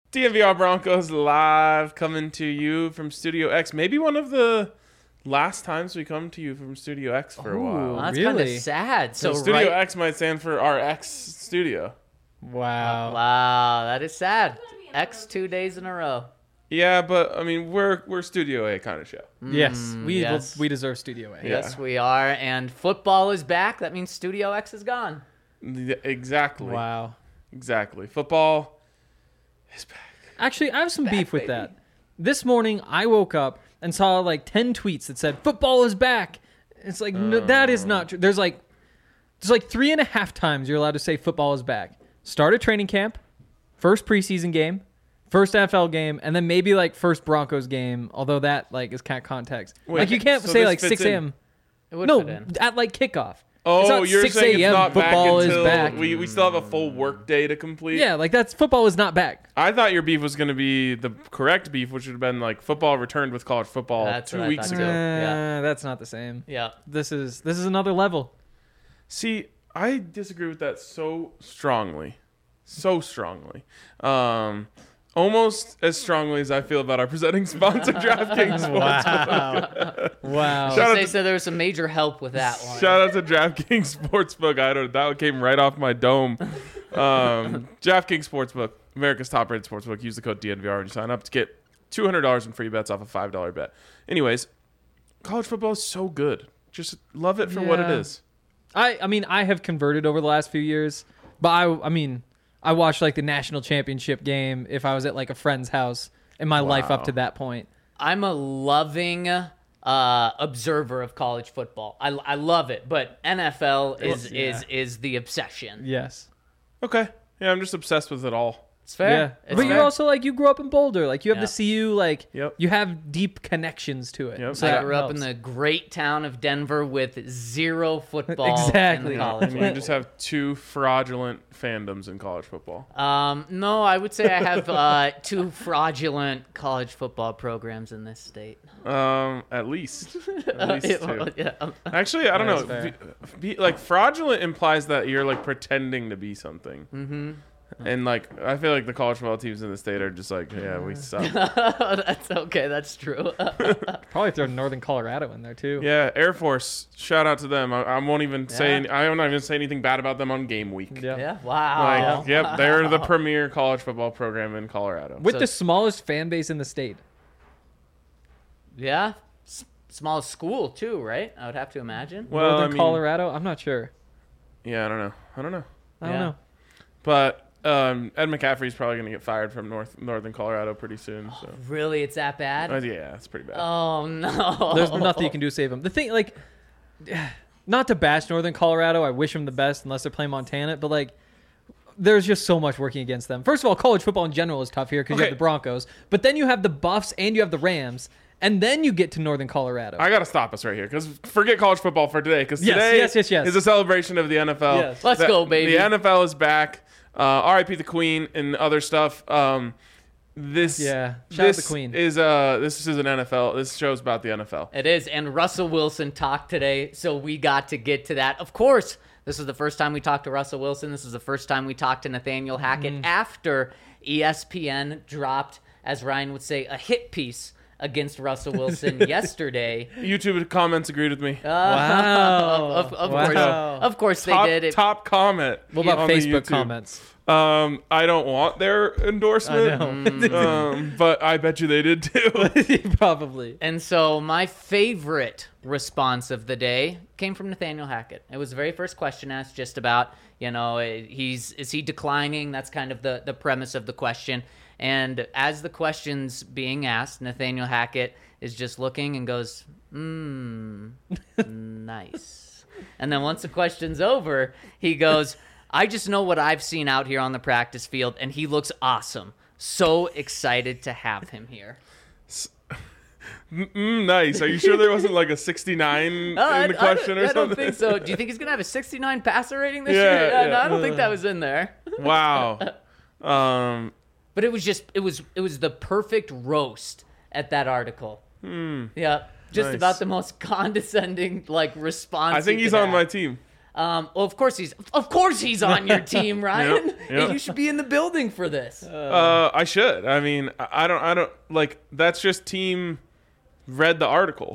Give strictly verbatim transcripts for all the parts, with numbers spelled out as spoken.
D N V R Broncos live, coming to you from Studio X. Maybe one of the last times we come to you from Studio X for a while. Well, that's kind Really? of sad. So, So Studio right, X might stand for our X studio. Wow. wow, that is sad. X two days in a row. Yeah, but I mean, we're we're Studio A kind of show. Yes, we yes. we deserve Studio A. Yeah. Yes, we are. And football is back. That means Studio X is gone. Yeah, exactly. Wow. Exactly. Football is back. Actually, I have some beef with baby. that. This morning, I woke up and saw like ten tweets that said "football is back." It's like no, that is not true. There's like there's like three and a half times you're allowed to say football is back. Start a training camp, first preseason game, first N F L game, and then maybe like first Broncos game. Although that like is kind of context. Wait, like you can't so say this like fits six a.m. It would No, fit in. at like kickoff. Oh, It's not you're six saying it's a.m. not back football is until back. we we still have a full work day to complete. Yeah, like that's football is not back. I thought your beef was going to be the correct beef, which would have been like football returned with college football That's two what I weeks thought ago. too. Uh, Yeah. That's not the same. Yeah. This is this is another level. See, I disagree with that so strongly. So strongly. Um, almost as strongly as I feel about our presenting sponsor, DraftKings Sportsbook. Wow. wow. Shout out They to- said there was some major help with that one. Shout out to DraftKings Sportsbook. I don't. That came right off my dome. Um, DraftKings Sportsbook, America's top-rated sportsbook. Use the code D N V R when you sign up to get two hundred dollars in free bets off a five dollar bet. Anyways, college football is so good. Just love it for what it Yeah. is. I, I mean, I have converted over the last few years, but I, I mean, I watched like the national championship game if I was at like a friend's house in my life up Wow. to that point. I'm a loving uh, observer of college football. I, I love it, but N F L is Yeah. is is the obsession. Yes. Okay. Yeah, I'm just obsessed with it all. It's fair. Yeah. It's But fair. you're also like, you grew up in Boulder. Like you have Yeah. the C U, like Yep. you have deep connections to it. Yep. So I that grew up in helps. the great town of Denver with zero football Exactly. in the college And you level. just have two fraudulent fandoms in college football. Um, no, I would say I have uh, two fraudulent college football programs in this state. Um, at least. At least two. Yeah. Actually, I don't That's know. fair. Be, be, like fraudulent implies that you're like pretending to be something. Mm-hmm. And like I feel like the college football teams in the state are just like, yeah, we suck. That's okay. That's true. Probably throw Northern Colorado in there too. Yeah, Air Force. Shout out to them. I, I won't even say. Yeah. Any, I won't even say anything bad about them on game week. Yeah. yeah. Wow. Like, yep, they're the premier college football program in Colorado. With So- the smallest fan base in the state. Yeah. S- small school too, right? I would have to imagine. Well, I Northern mean, Colorado? I'm not sure. yeah, I don't know. I don't know. I don't Yeah. know. But um, Ed McCaffrey's probably going to get fired from North Northern Colorado pretty soon. So Really, it's that bad? Uh, yeah, it's pretty bad. Oh no. There's nothing you can do to save him. The thing, like, not to bash Northern Colorado. I wish them the best unless they're playing Montana. But, like, there's just so much working against them. First of all, college football in general is tough here because you Okay. have the Broncos. But then you have the Buffs and you have the Rams. And then you get to Northern Colorado. I got to stop us right here because forget college football for today because Yes, today yes, yes, yes. is a celebration of the N F L. Yes. Let's The- go, baby. The N F L is back. Uh, R I P the Queen and other stuff. Um, this Yeah. Shout out this the Queen. is uh this is an N F L. This show's about the N F L. It is, and Russell Wilson talked today, so we got to get to that. Of course, this is the first time we talked to Russell Wilson. This is the first time we talked to Nathaniel Hackett Mm. after E S P N dropped, as Ryan would say, a hit piece against Russell Wilson yesterday. YouTube comments agreed with me. Uh, Wow. Of, of Wow. course, of course top, they did. It, top comment. What about on the Facebook YouTube. comments? Um, I don't want their endorsement. I know. um, but I bet you they did too. Probably. And so my favorite response of the day came from Nathaniel Hackett. It was the very first question asked, just about, you know, he's is he declining? That's kind of the, the premise of the question. And as the question's being asked, Nathaniel Hackett is just looking and goes, mmm, nice. And then once the question's over, he goes, I just know what I've seen out here on the practice field, and he looks awesome. So excited to have him here. Mm, nice. Are you sure there wasn't like a sixty-nine Uh, I- in the I question don't, or I don't something? think so. Do you think he's gonna have a sixty-nine passer rating this Yeah, year? Uh, yeah. No, I don't think that was in there. Wow. Um, But it was just it was it was the perfect roast at that article. hmm. Yeah, just Nice. about the most condescending like response. I think you he's could on my have. team. Um, well, of course he's of course he's on your team, Ryan. Yep, yep. You should be in the building for this. Uh, I should. I mean, I I don't. I don't like. That's just team. Read the article.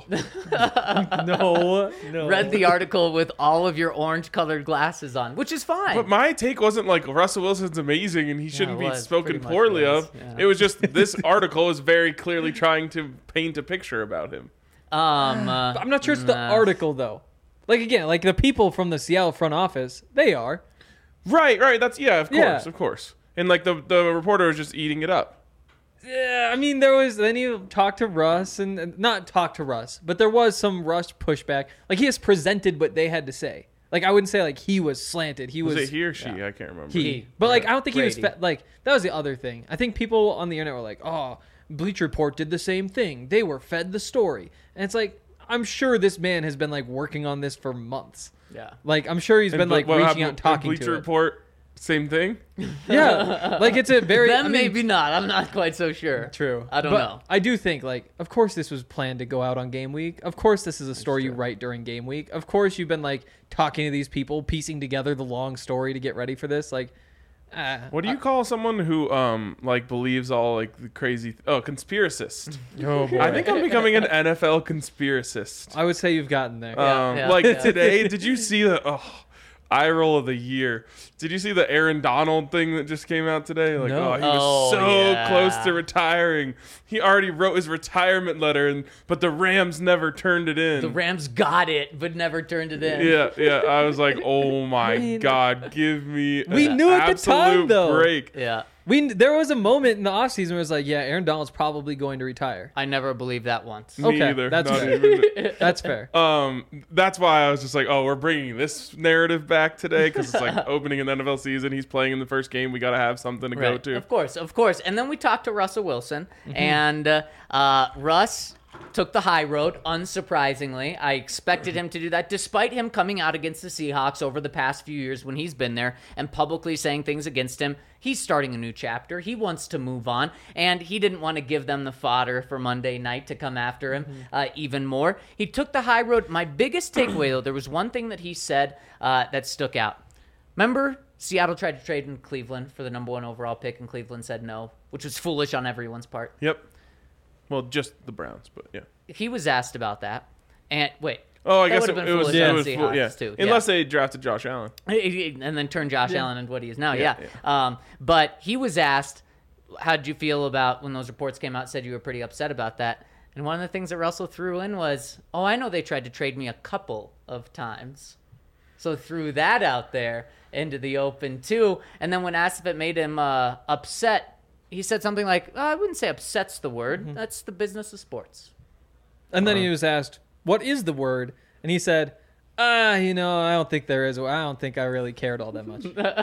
No, no. Read the article with all of your orange-colored glasses on, which is fine. But my take wasn't like Russell Wilson's amazing and he shouldn't it be was. spoken Pretty much poorly was. of. Yeah. It was just this article is very clearly trying to paint a picture about him. Um, uh, I'm not sure it's the nah. article though. Like again, like the people from the Seattle front office, they are. Right, right. That's yeah, of course, Yeah. of course. And like the the reporter was just eating it up. Yeah, I mean, there was then you talked to Russ and, and not talk to Russ, but there was some Russ pushback. Like he has presented what they had to say. Like I wouldn't say like he was slanted. He Was, was, it he or she? yeah. I can't remember. He. He. But like I don't think he was Brady. fe- like that was the other thing. I think people on the internet were like, "Oh, Bleacher Report did the same thing. They were fed the story." And it's like I'm sure this man has been like working on this for months. Yeah. Like I'm sure he's And been what- like what reaching happened out and with talking Bleacher to it. Report, same thing. Yeah. Like it's a very Them I mean, maybe not. I'm not quite so sure. True. I don't But know. I do think, like, of course this was planned to go out on game week. Of course this is a story you write during game week. Of course you've been, like, talking to these people, piecing together the long story to get ready for this. Like, uh, What do you call someone who um like believes all like the crazy th- oh conspiracist? oh boy. I think I'm becoming an N F L conspiracist. I would say you've gotten there. Um, yeah, like yeah. today, did you see the oh, eye roll of the year? Did you see the Aaron Donald thing that just came out today? Like, No. oh, he was Oh, so yeah. close to retiring. He already wrote his retirement letter, and but the Rams never turned it in. The Rams got it, but never turned it in. yeah, yeah. I was like, oh my I mean, god, give me we an knew at the time, absolute though. break. Yeah. We There was a moment in the offseason where it was like, yeah, Aaron Donald's probably going to retire. I never believed that once. Me Okay, either. that's Not fair. even- That's fair. Um, that's why I was just like, oh, we're bringing this narrative back today because it's like opening an N F L season. He's playing in the first game. We got to have something to go Right. to. Of course, of course. And then we talked to Russell Wilson, Mm-hmm. and uh, uh, Russ took the high road, unsurprisingly. I expected him to do that, despite him coming out against the Seahawks over the past few years when he's been there and publicly saying things against him. He's starting a new chapter. He wants to move on, and he didn't want to give them the fodder for Monday night to come after him Mm-hmm. uh, even more. He took the high road. My biggest takeaway, though, there was one thing that he said uh, that stuck out. Remember, Seattle tried to trade in Cleveland for the number one overall pick, and Cleveland said no, which was foolish on everyone's part. Yep. Well, just the Browns, but yeah. He was asked about that, and wait. Oh, I that guess would it, have been it was. foolish It on was Seahawks, fool- yeah. too. Unless they drafted Josh Allen. And then turn Josh Allen into what he is now. Yeah. Yeah, Um, but he was asked, how did you feel about when those reports came out, said you were pretty upset about that. And one of the things that Russell threw in was, oh, I know they tried to trade me a couple of times. So threw that out there into the open, too. And then when asked if it made him uh, upset, he said something like, oh, I wouldn't say upset's the word. That's the business of sports. And then he was asked, what is the word? And he said, ah, you know, I don't think there is. I don't think I really cared all that much.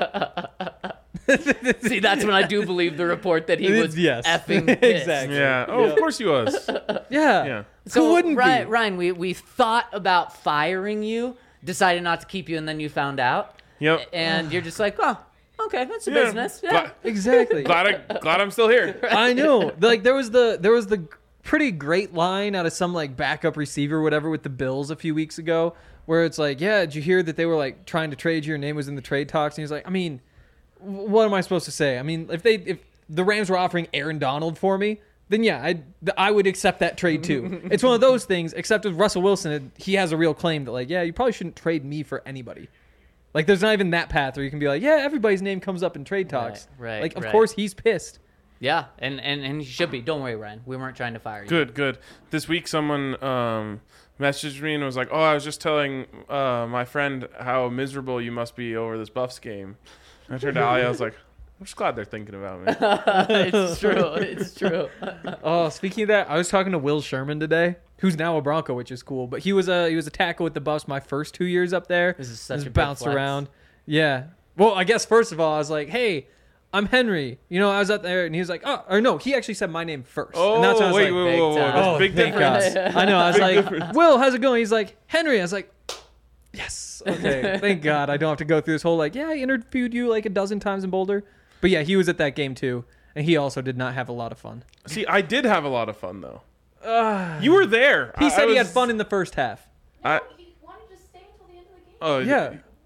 See, that's when I do believe the report that he was Yes. effing pissed. Exactly. Yeah. Oh, of course he was. Yeah. Yeah. So Who wouldn't Ryan, be? Ryan, we, we thought about firing you, decided not to keep you, and then you found out. Yep. And you're just like, oh, okay, that's a Yeah. business. Yeah. Glad, Exactly. glad, I, glad I'm still here. I know. Like there was the there was the pretty great line out of some like backup receiver or whatever with the Bills a few weeks ago where it's like, yeah, did you hear that they were like trying to trade you? Your name was in the trade talks, and he's like, I mean, w- what am I supposed to say? I mean, if they if the Rams were offering Aaron Donald for me, then yeah, I I would accept that trade too. It's one of those things. Except with Russell Wilson, he has a real claim that like, yeah, you probably shouldn't trade me for anybody. Like, there's not even that path where you can be like, yeah, everybody's name comes up in trade talks. Right, right, Like, of right. course he's pissed. Yeah, and, and, and you should be. Don't worry, Ryan. We weren't trying to fire you. Good, good. This week, someone um, messaged me and was like, "Oh, I was just telling uh, my friend how miserable you must be over this Buffs game." And I turned to Ali. I was like, "I'm just glad they're thinking about me." It's true. It's true. Oh, speaking of that, I was talking to Will Sherman today, who's now a Bronco, which is cool. But he was a he was a tackle with the Buffs my first two years up there. This is such Just a big bounced flex. around. Yeah. Well, I guess first of all, I was like, "Hey, I'm Henry." You know, I was up there, and he was like, "Oh," or no, he actually said my name first. Oh, and that's when I was wait, like, wait, wait, wait, big time. There's "Oh, a big thank difference. God." I know. I was Big like, difference. "Will, how's it going?" He's like, "Henry." I was like, "Yes, okay, thank God, I don't have to go through this whole like, yeah, I interviewed you like a dozen times in Boulder." But yeah, he was at that game too, and he also did not have a lot of fun. See, I did have a lot of fun though. You were there. He I- said I he had was- fun in the first half. I- he wanted to stay until the end of the game. Oh Yeah.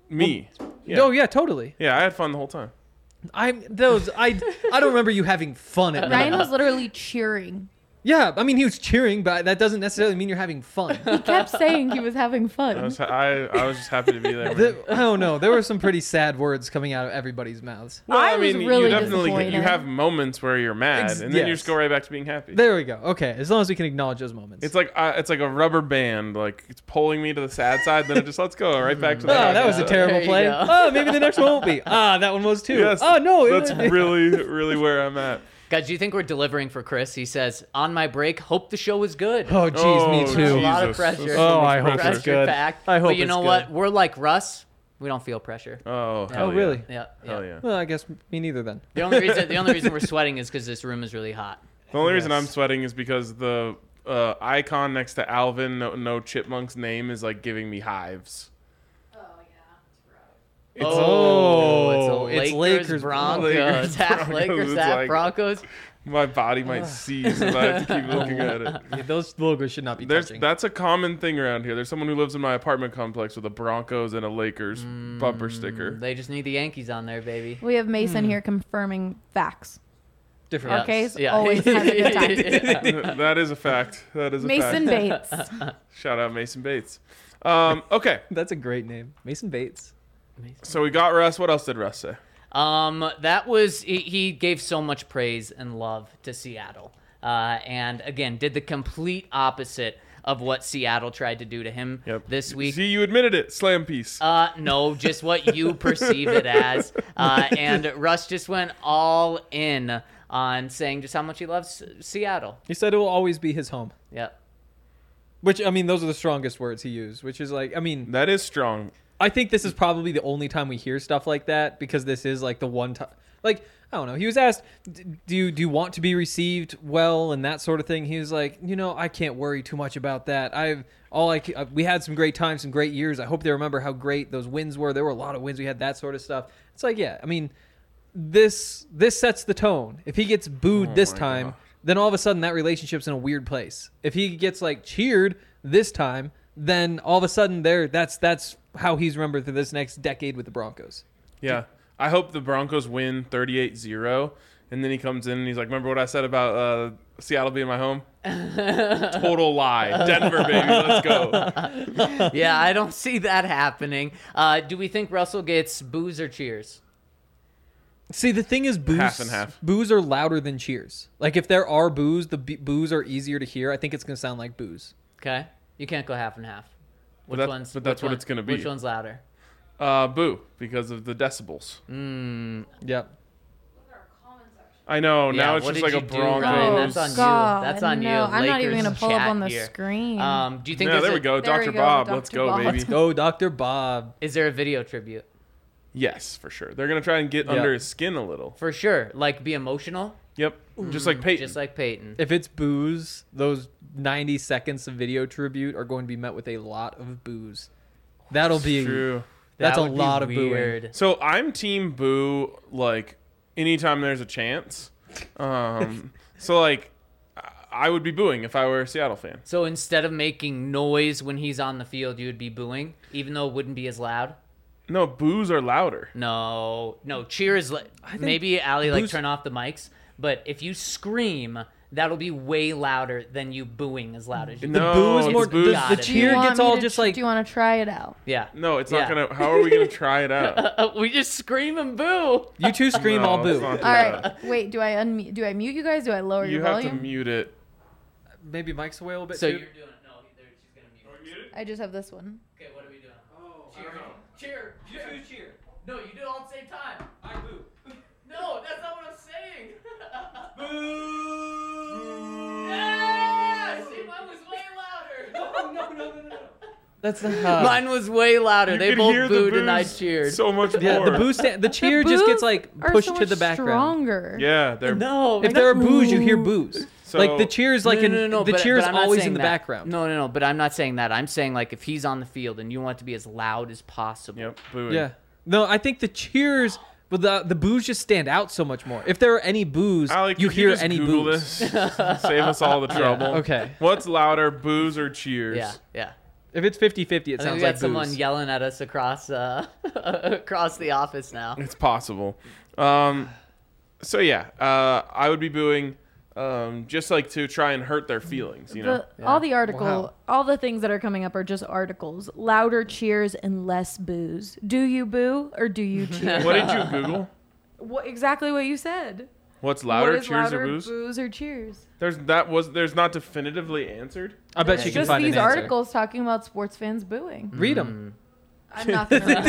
Me. Yeah. Oh yeah, totally. Yeah, I had fun the whole time. I'm those. I I don't remember you having fun at Ryan Ryan. was literally cheering. Yeah, I mean he was cheering, but that doesn't necessarily mean you're having fun. He kept saying he was having I fun. was, I, I was just happy to be there. man. The- I don't know. There were some pretty sad words coming out of everybody's mouths. Well, I I was mean, really you definitely disappointed. you have moments where you're mad, Ex- and then you yes. just go right back to being happy. There we go. Okay, as long as we can acknowledge those moments. It's like uh, it's like a rubber band, like it's pulling me to the sad side, then it just lets go right back to Oh, the. happy that was a side. terrible There you play. go. Oh, maybe the next one won't be. Ah, that one was too. Yes, oh no, it that's was- really really where I'm at. Guys, do you think we're delivering for Chris? He says, on my break, hope the show is good. Oh, jeez, Oh, me a too. lot of Jesus. pressure. There's Oh, so much I hope pressure. it's good. Packed. I hope But you it's know good. what? We're like Russ. We don't feel pressure. Oh, hell Oh, yeah. really? Yeah. yeah. Hell yeah. Well, I guess me neither then. The only reason the only reason we're sweating is because this room is really hot. The only reason Yes. I'm sweating is because the uh, icon next to Alvin, no, no Chipmunk's name, is like giving me hives. It's- Oh, it's, it's a Lakers, Lakers, Broncos, Lakers, half Broncos. Lakers, It's half like- Broncos. My body might seize if I have to keep looking at it. Yeah, those logos should not be There's touching. that's a common thing around here. There's someone who lives in my apartment complex with a Broncos and a Lakers Mm. bumper sticker. They just need the Yankees on there, baby. We have Mason Hmm. here confirming facts. Different. Our case Yeah. always has a good time. That is a fact. That is a Mason fact. Bates. Shout out Mason Bates. Um, okay, That's a great name, Mason Bates. so we got Russ. What else did Russ say? Um, that was he, he gave so much praise and love to Seattle, uh, and again did the complete opposite of what Seattle tried to do to him Yep. this week. See, you admitted it. Slam piece. Uh, no, just what you perceive it as. Uh, and Russ just went all in on saying just how much he loves Seattle. He said it will always be his home. Yep. Which, I mean, those are the strongest words he used, which is like, I mean, That is strong. I think this is probably the only time we hear stuff like that because this is like the one time, like, I don't know. He was asked, "D- do you, do you want to be received well and that sort of thing? He was like, you know, I can't worry too much about that. I've all I, ca- we had some great times, some great years. I hope they remember how great those wins were. There were a lot of wins. We had that sort of stuff. It's like, yeah, I mean, this, this sets the tone. If he gets booed Oh this my time, gosh. then all of a sudden that relationship's in a weird place. If he gets like cheered this time, then all of a sudden there, that's, that's how he's remembered for this next decade with the Broncos. Yeah. I hope the Broncos win thirty-eight zero. And then he comes in and he's like, remember what I said about uh, Seattle being my home? Total lie. Denver, baby. Let's go. Yeah, I don't see that happening. Uh, do we think Russell gets boos or cheers? See, the thing is, boos, Half and half. boos are louder than cheers. Like, if there are boos, the b- boos are easier to hear. I think it's going to sound like boos. Okay, you can't go half and half. Which that- one's? but that's which what one- it's gonna be. Which one's louder? Uh, boo, because of the decibels. Mm, Yep. I know. Yeah, now it's what just did like a you do, Ryan? Broncos. That's on you. God, That's on you. no, I'm not even Lakers gonna pull up chat on the here. screen. Um, do you think? Yeah, there's there a- we go. There we Doctor go, Bob. Doctor Let's go, Bob. baby. Let's go, Doctor Bob. Is there a video tribute? Yes, for sure. They're going to try and get Yeah. under his skin a little. For sure. Like be emotional, Yep. Just like Peyton. just like Peyton. If it's boos, those ninety seconds of video tribute are going to be met with a lot of boos. That'll be True. that's That a would be lot of booing. weird. So I'm team boo, like, anytime there's a chance. Um, so, like, I- I would be booing if I were a Seattle fan. So instead of making noise when he's on the field, you would be booing, even though it wouldn't be as loud. No, boos are louder. No, no. Cheer is like think maybe Allie like boos- turn off the mics, but if you scream, that'll be way louder than you booing as loud as you. The No, boo is it's more. boos. The, Got the it. Do you cheer want gets me all to just tr- like. Do you want to try it out? Yeah. No, it's Yeah. not going to. How are we going to try it out? we just scream and boo. You two scream, No, all it's boo. not All that. right. Wait. Do I unmute? Do I mute you guys? Do I lower You your have volume? to mute it. Maybe Mike's away a little bit. So too. you're doing it. No, there- she's gonna mute. it. I just have this one. Okay, what are we doing? Oh, cheer, cheer, you two cheer. No, you do it all at the same time. I boo. No, that's not what I'm saying. Boo! Yeah! See, mine was way louder. No, no, no, no, no. That's not. Mine was way louder. You they can both hear the booed and I boos cheered. so much yeah, more. the boo sta- the cheer The just gets boos like are pushed so to much the background. Stronger. Yeah, they're. No, If there are boos, you hear boos. So, like the cheers, like no, in no, no, no, the but- cheers but I'm not always saying in the that. background. No, no, no. But I'm not saying that. I'm saying like if he's on the field and you want it to be as loud as possible. Yep, booing. Yeah. No, I think the cheers, but the the boos just stand out so much more. If there are any boos, Alec, you could hear just any Google boos. this? Save us all the trouble. Okay. What's louder, boos or cheers? Yeah, yeah. If it's fifty-fifty, it I think sounds we got like someone booze. yelling at us across uh, across the office now. It's possible. Um, so yeah, uh, I would be booing, um, just like to try and hurt their feelings. You know. The, All the article, Wow. all the things that are coming up are just articles. Louder cheers and less booze. Do you boo or do you cheer? What did you Google? What, exactly what you said. What's louder, what is cheers louder, or booze? booze or cheers? There's that was there's not definitively answered. I bet It's you can just find these an answer. articles talking about sports fans booing. Read them. I'm not going to read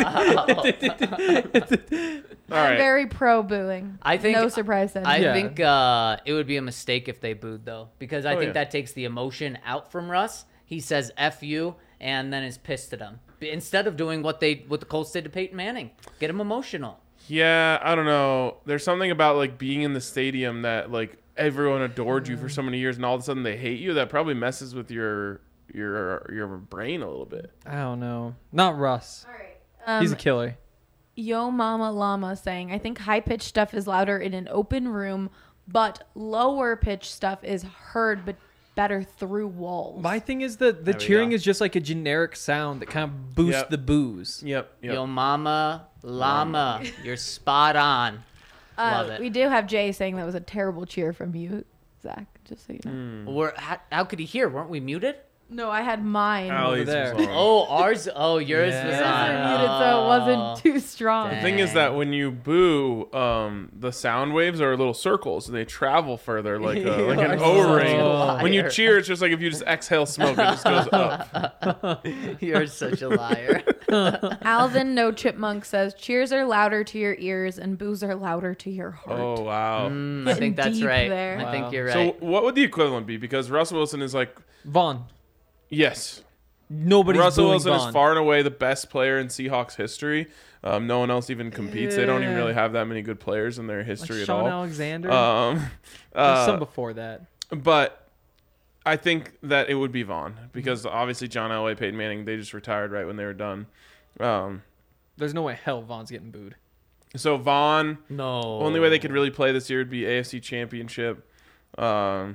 the article. All I'm right. very pro booing. I think- no surprise then. I Yeah. think uh, it would be a mistake if they booed though, because I Oh, think yeah. that takes the emotion out from Russ. He says "F you" and then is pissed at him instead of doing what they what the Colts did to Peyton Manning, get him emotional. Yeah, I don't know. There's something about like being in the stadium that like everyone adored you for so many years, and all of a sudden they hate you. That probably messes with your your your brain a little bit. I don't know. Not Russ. All right. Um, He's a killer. Yo Mama Llama saying, I think high pitched stuff is louder in an open room, but lower pitched stuff is heard but better through walls. My thing is that the There we cheering go. is just like a generic sound that kind of boosts Yep. the booze. Yep. Yep. Yo, mama, llama, you're spot on. Love uh, it. we do have Jay saying that was a terrible cheer from you, Zach, just so you know. Hmm. We're, how, how could he hear? Weren't we muted? No, I had mine. Allie's there. was on. Oh, ours. Oh, yours Yeah. was Yours on. were muted, so it wasn't too strong. Dang. The thing is that when you boo, um, the sound waves are little circles and they travel further like a, like You an are O-ring. such a When you liar. cheer, it's just like if you just exhale smoke, it just goes up. You're such a liar. Alvin No Chipmunk says, cheers are louder to your ears and boos are louder to your heart. Oh wow. Mm, I think Getting that's deep right. there. I think Wow. you're So right. what would the equivalent be? Because Russell Wilson is like, Vaughn. yes, Nobody's Russell booing Wilson Vaughn. is far and away the best player in Seahawks history. Um, no one else even competes. They don't even Yeah. really have that many good players in their Like history at Sean all. Alexander. Um, There's uh, some before that. but I think that it would be Vaughn because obviously John Elway, Peyton Manning, they just retired right when they were done. Um, There's no way hell Vaughn's getting booed. so Vaughn, No. only way they could really play this year would be A F C Championship. Um,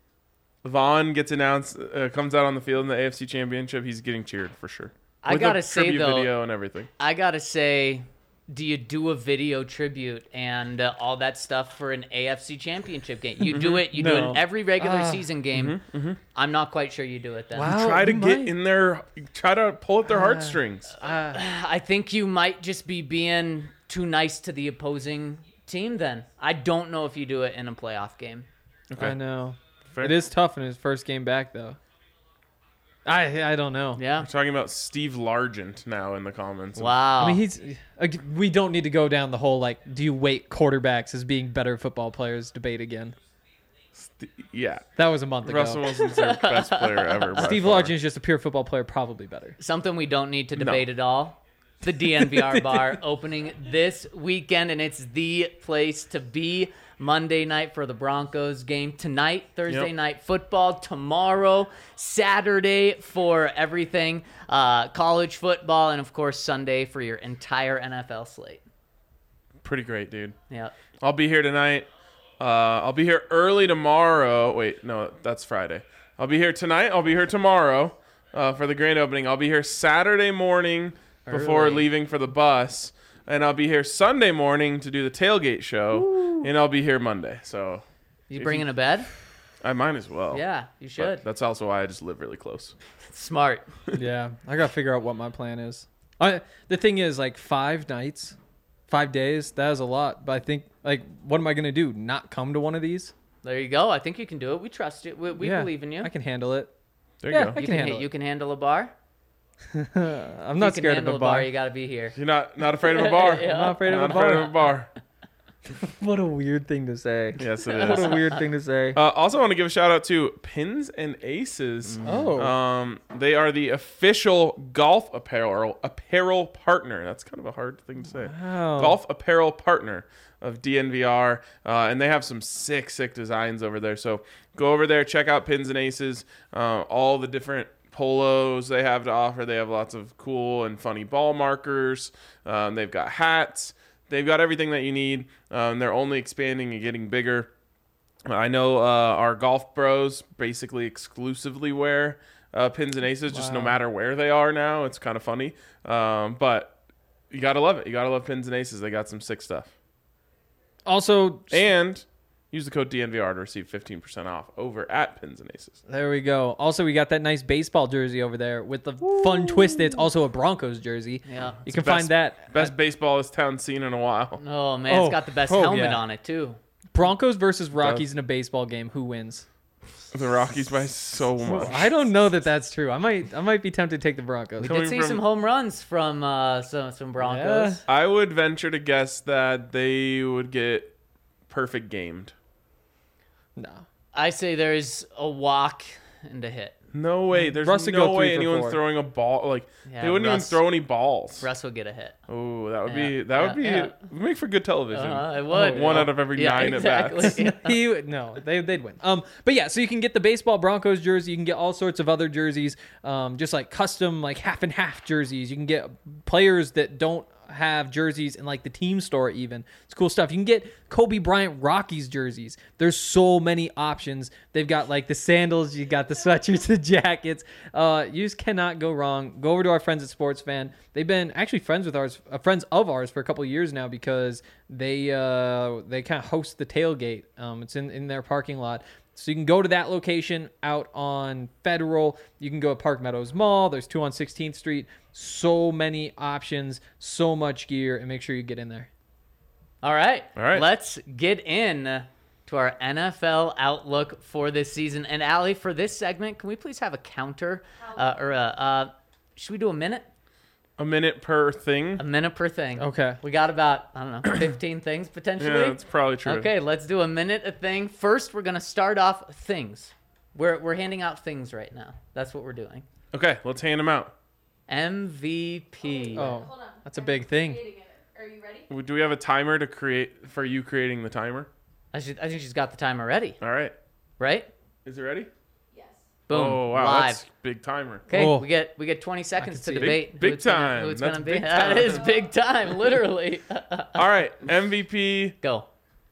Vaughn gets announced, uh, comes out on the field in the A F C Championship. He's getting cheered for sure. I With gotta a say, tribute though- video and everything. I gotta say, do you do a video tribute and uh, all that stuff for an A F C Championship game? You do it. You do it No. in every regular Ah. season game. I'm not quite sure you do it then. Wow. Try to you get might. in there. Try to pull at their heartstrings. I think you might just be being too nice to the opposing team. Then I don't know if you do it in a playoff game. Okay. I know. Fair. It is tough in his first game back, though. I I don't know. Yeah. We're talking about Steve Largent now in the comments. Wow. I mean, he's. ag- We don't need to go down the whole like, do you weight quarterbacks as being better football players debate again? St- yeah. That was a month ago. Russell Wilson's their best player ever. by Steve far. Largent is just a pure football player, probably better. Something we don't need to No. debate at all. The D N V R bar opening this weekend, and it's the place to be. Monday night for the Broncos game. Tonight, Thursday Yep. night football. Tomorrow, Saturday for everything. Uh, college football, and of course, Sunday for your entire N F L slate. Pretty great, dude. Yeah. I'll be here tonight. Uh, I'll be here early tomorrow. Wait, no, that's Friday. I'll be here tonight. I'll be here tomorrow uh, for the grand opening. I'll be here Saturday morning before Early. leaving for the bus. And I'll be here Sunday morning to do the tailgate show. And I'll be here Monday. So You If bringing you- a bed? I might as well. Yeah, you But should. that's also why I just live really close. Smart. Yeah, I gotta figure out what my plan is. I the thing is, like five nights, five days. That is a lot. But I think, like, what am I gonna do? Not come to one of these? There you go. I think you can do it. We trust you. We, we Yeah, believe in you. I can handle it. There you Yeah, go. I you can can, handle you it. can handle a bar. I'm you not can scared of handle a bar. You got to be here. You're not not afraid of a bar. Yeah. I'm not afraid of Not a bar. afraid of a bar. What a weird thing to say. Yes, it What is. a weird thing to say. Uh, also, want to give a shout out to Pins and Aces. Oh. Um, they are the official golf apparel apparel partner. That's kind of a hard thing to say. Wow. Golf apparel partner of D N V R, uh, and they have some sick, sick designs over there. So go over there, check out Pins and Aces. Uh, all the different polos they have to offer. They have lots of cool and funny ball markers. Um, they've got hats. They've got everything that you need. Um, they're only expanding and getting bigger. I know uh, our golf bros basically exclusively wear uh, pins and aces, just no Wow. matter where they are now. It's kind of funny. Um, but you got to love it. You got to love pins and aces. They got some sick stuff. Also, And use the code D N V R to receive fifteen percent off over at Pins and Aces. there we go. Also, we got that nice baseball jersey over there with the fun twist. It's also a Broncos jersey. Yeah. You can the best- find that. Best baseball this town's seen in a while. Oh man, Oh. it's got the best Oh, helmet yeah. on it too. Broncos versus Rockies in a baseball game. Who wins? The Rockies by so much. I don't know that that's true. I might I might be tempted to take the Broncos. We Coming did see from- some home runs from uh, some some Broncos. I would venture to guess that they would get perfect gamed. No. I say there's a walk and a hit. No way. There's Russ would no go way three for anyone's four. throwing a ball. Like Yeah, they wouldn't Russ- even throw any balls. Russ will get a hit. Oh, that would Yeah, be that would be yeah, would make for good television. Uh, it would. One out of every Yeah, nine exactly. at bats. he would- no, they they'd win. Um, but yeah, so you can get the baseball Broncos jersey. You can get all sorts of other jerseys, um, just like custom like half and half jerseys. You can get players that don't have jerseys in like the team store. Even it's cool stuff. You can get Kobe Bryant Rockies jerseys. There's so many options. They've got like the sandals. You got the sweatshirts, the jackets. Uh, you just cannot go wrong. Go over to our friends at Sports Fan. They've been actually friends with ours, uh, friends of ours for a couple of years now because they uh, they kind of host the tailgate. Um, it's in in their parking lot. So you can go to that location out on Federal. You can go to Park Meadows Mall. There's two on sixteenth Street. So many options, so much gear, and make sure you get in there. All right. All right. Let's get in to our N F L outlook for this season. And Allie, for this segment, can we please have a counter uh, or a, uh, should we do a minute? A minute per thing. A minute per thing. Okay. We got about, I don't know, fifteen things potentially. Yeah, that's probably true. Okay, let's do a minute a thing. First, we're going to start off things. We're, we're handing out things right now. That's what we're doing. Okay, let's hand them out. M V P. Oh, Hold on. that's a big thing. Creating it. Are you ready? Do we have a timer to create for you creating the timer? I, should, I think she's got the timer ready, All right. right? Is it ready? Yes. Boom. Oh wow, Live. that's big timer. Okay, Oh. we get we get twenty seconds to see it. debate Big- big who it's gonna- time. who it's That's gonna be. big That time. is big time, literally. All right, M V P. Go.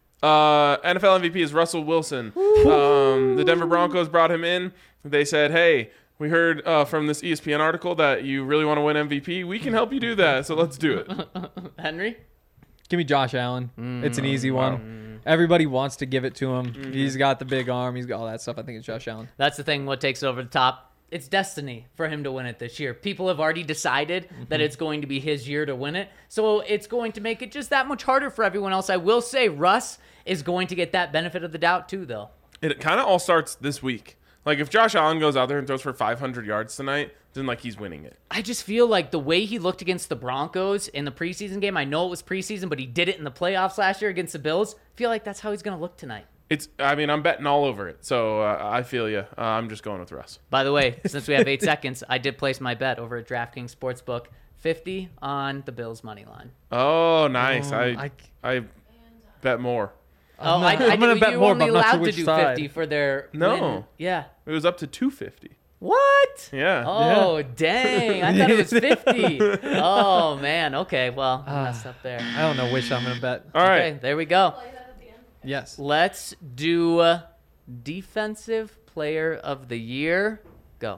Uh, N F L M V P is Russell Wilson. Um, the Denver Broncos brought him in. They said, "Hey, we heard uh, from this E S P N article that you really want to win M V P. We can help you do that. So let's do it." Henry? Give me Josh Allen. It's an easy wow. one. Everybody wants to give it to him. He's got the big arm. He's got all that stuff. I think it's Josh Allen. That's the thing. What takes it over the top? It's destiny for him to win it this year. People have already decided that it's going to be his year to win it. So it's going to make it just that much harder for everyone else. I will say Russ is going to get that benefit of the doubt too, though. It kind of all starts this week. Like if Josh Allen goes out there and throws for five hundred yards tonight, then like he's winning it. I just feel like the way he looked against the Broncos in the preseason game, I know it was preseason, but he did it in the playoffs last year against the Bills. I feel like that's how he's going to look tonight. It's. I mean, I'm betting all over it. So uh, I feel you. Uh, I'm just going with Russ. By the way, since we have eight seconds, I did place my bet over at DraftKings Sportsbook, fifty on the Bills money line. Oh, nice. Oh, I, I- I bet more. Oh, I'm I, not- I I'm gonna did- bet you more, only but I'm not sure allowed to which do side. fifty for their No. win. Yeah. It was up to two fifty. What? Yeah. Oh, dang. I thought it was fifty. Oh, man. Okay, well, I Ah. messed up there. I don't know which I'm going to bet. All right. Okay, there we go. Play that at the end. Yes. Let's do uh, Defensive Player of the Year. Go.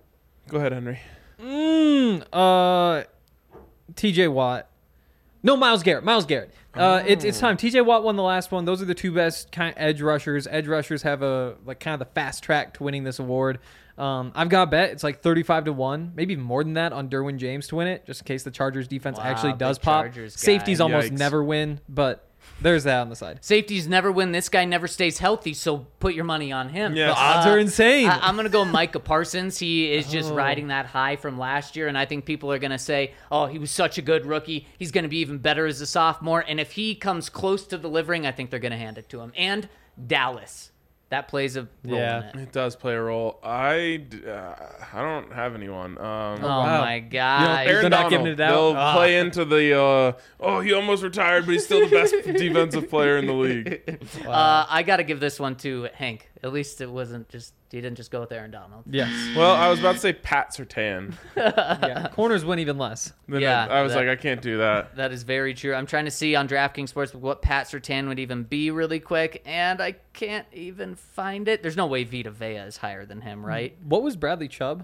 Go ahead, Henry. Mm, uh, T J Watt. No, Miles Garrett. Miles Garrett. Uh, it's it's time. T J Watt won the last one. Those are the two best kind of edge rushers. Edge rushers have a like kind of the fast track to winning this award. Um, I've got a bet. It's like thirty-five to one, maybe even more than that on Derwin James to win it, just in case the Chargers defense Wow, actually big does pop. Chargers guy. Safeties almost Yikes. never win, but there's that on the side. Safeties never win. This guy never stays healthy, so put your money on him. Yes. The odds are insane. I, I'm going to go Micah Parsons. He is just Oh. riding that high from last year, and I think people are going to say, oh, he was such a good rookie. He's going to be even better as a sophomore, and if he comes close to delivering, I think they're going to hand it to him. And Dallas. That plays a role Yeah. in it. It does play a role. I, d- uh, I don't have anyone. Um, Oh, wow. my God. Aaron Aaron not Donald. giving it out? They'll Ah. play into the. Uh, oh, he almost retired, but he's still the best defensive player in the league. Uh, I got to give this one to Hank. At least it wasn't just he didn't just go with Aaron Donald. Yes. Well, I was about to say Pat Surtain. Yeah. Corners win even less. Then Yeah, I, I was that- like, I can't do that. That is very true. I'm trying to see on DraftKings Sportsbook what Pat Surtain would even be really quick, and I can't even find it. There's no way Vita Vea is higher than him, right? What was Bradley Chubb?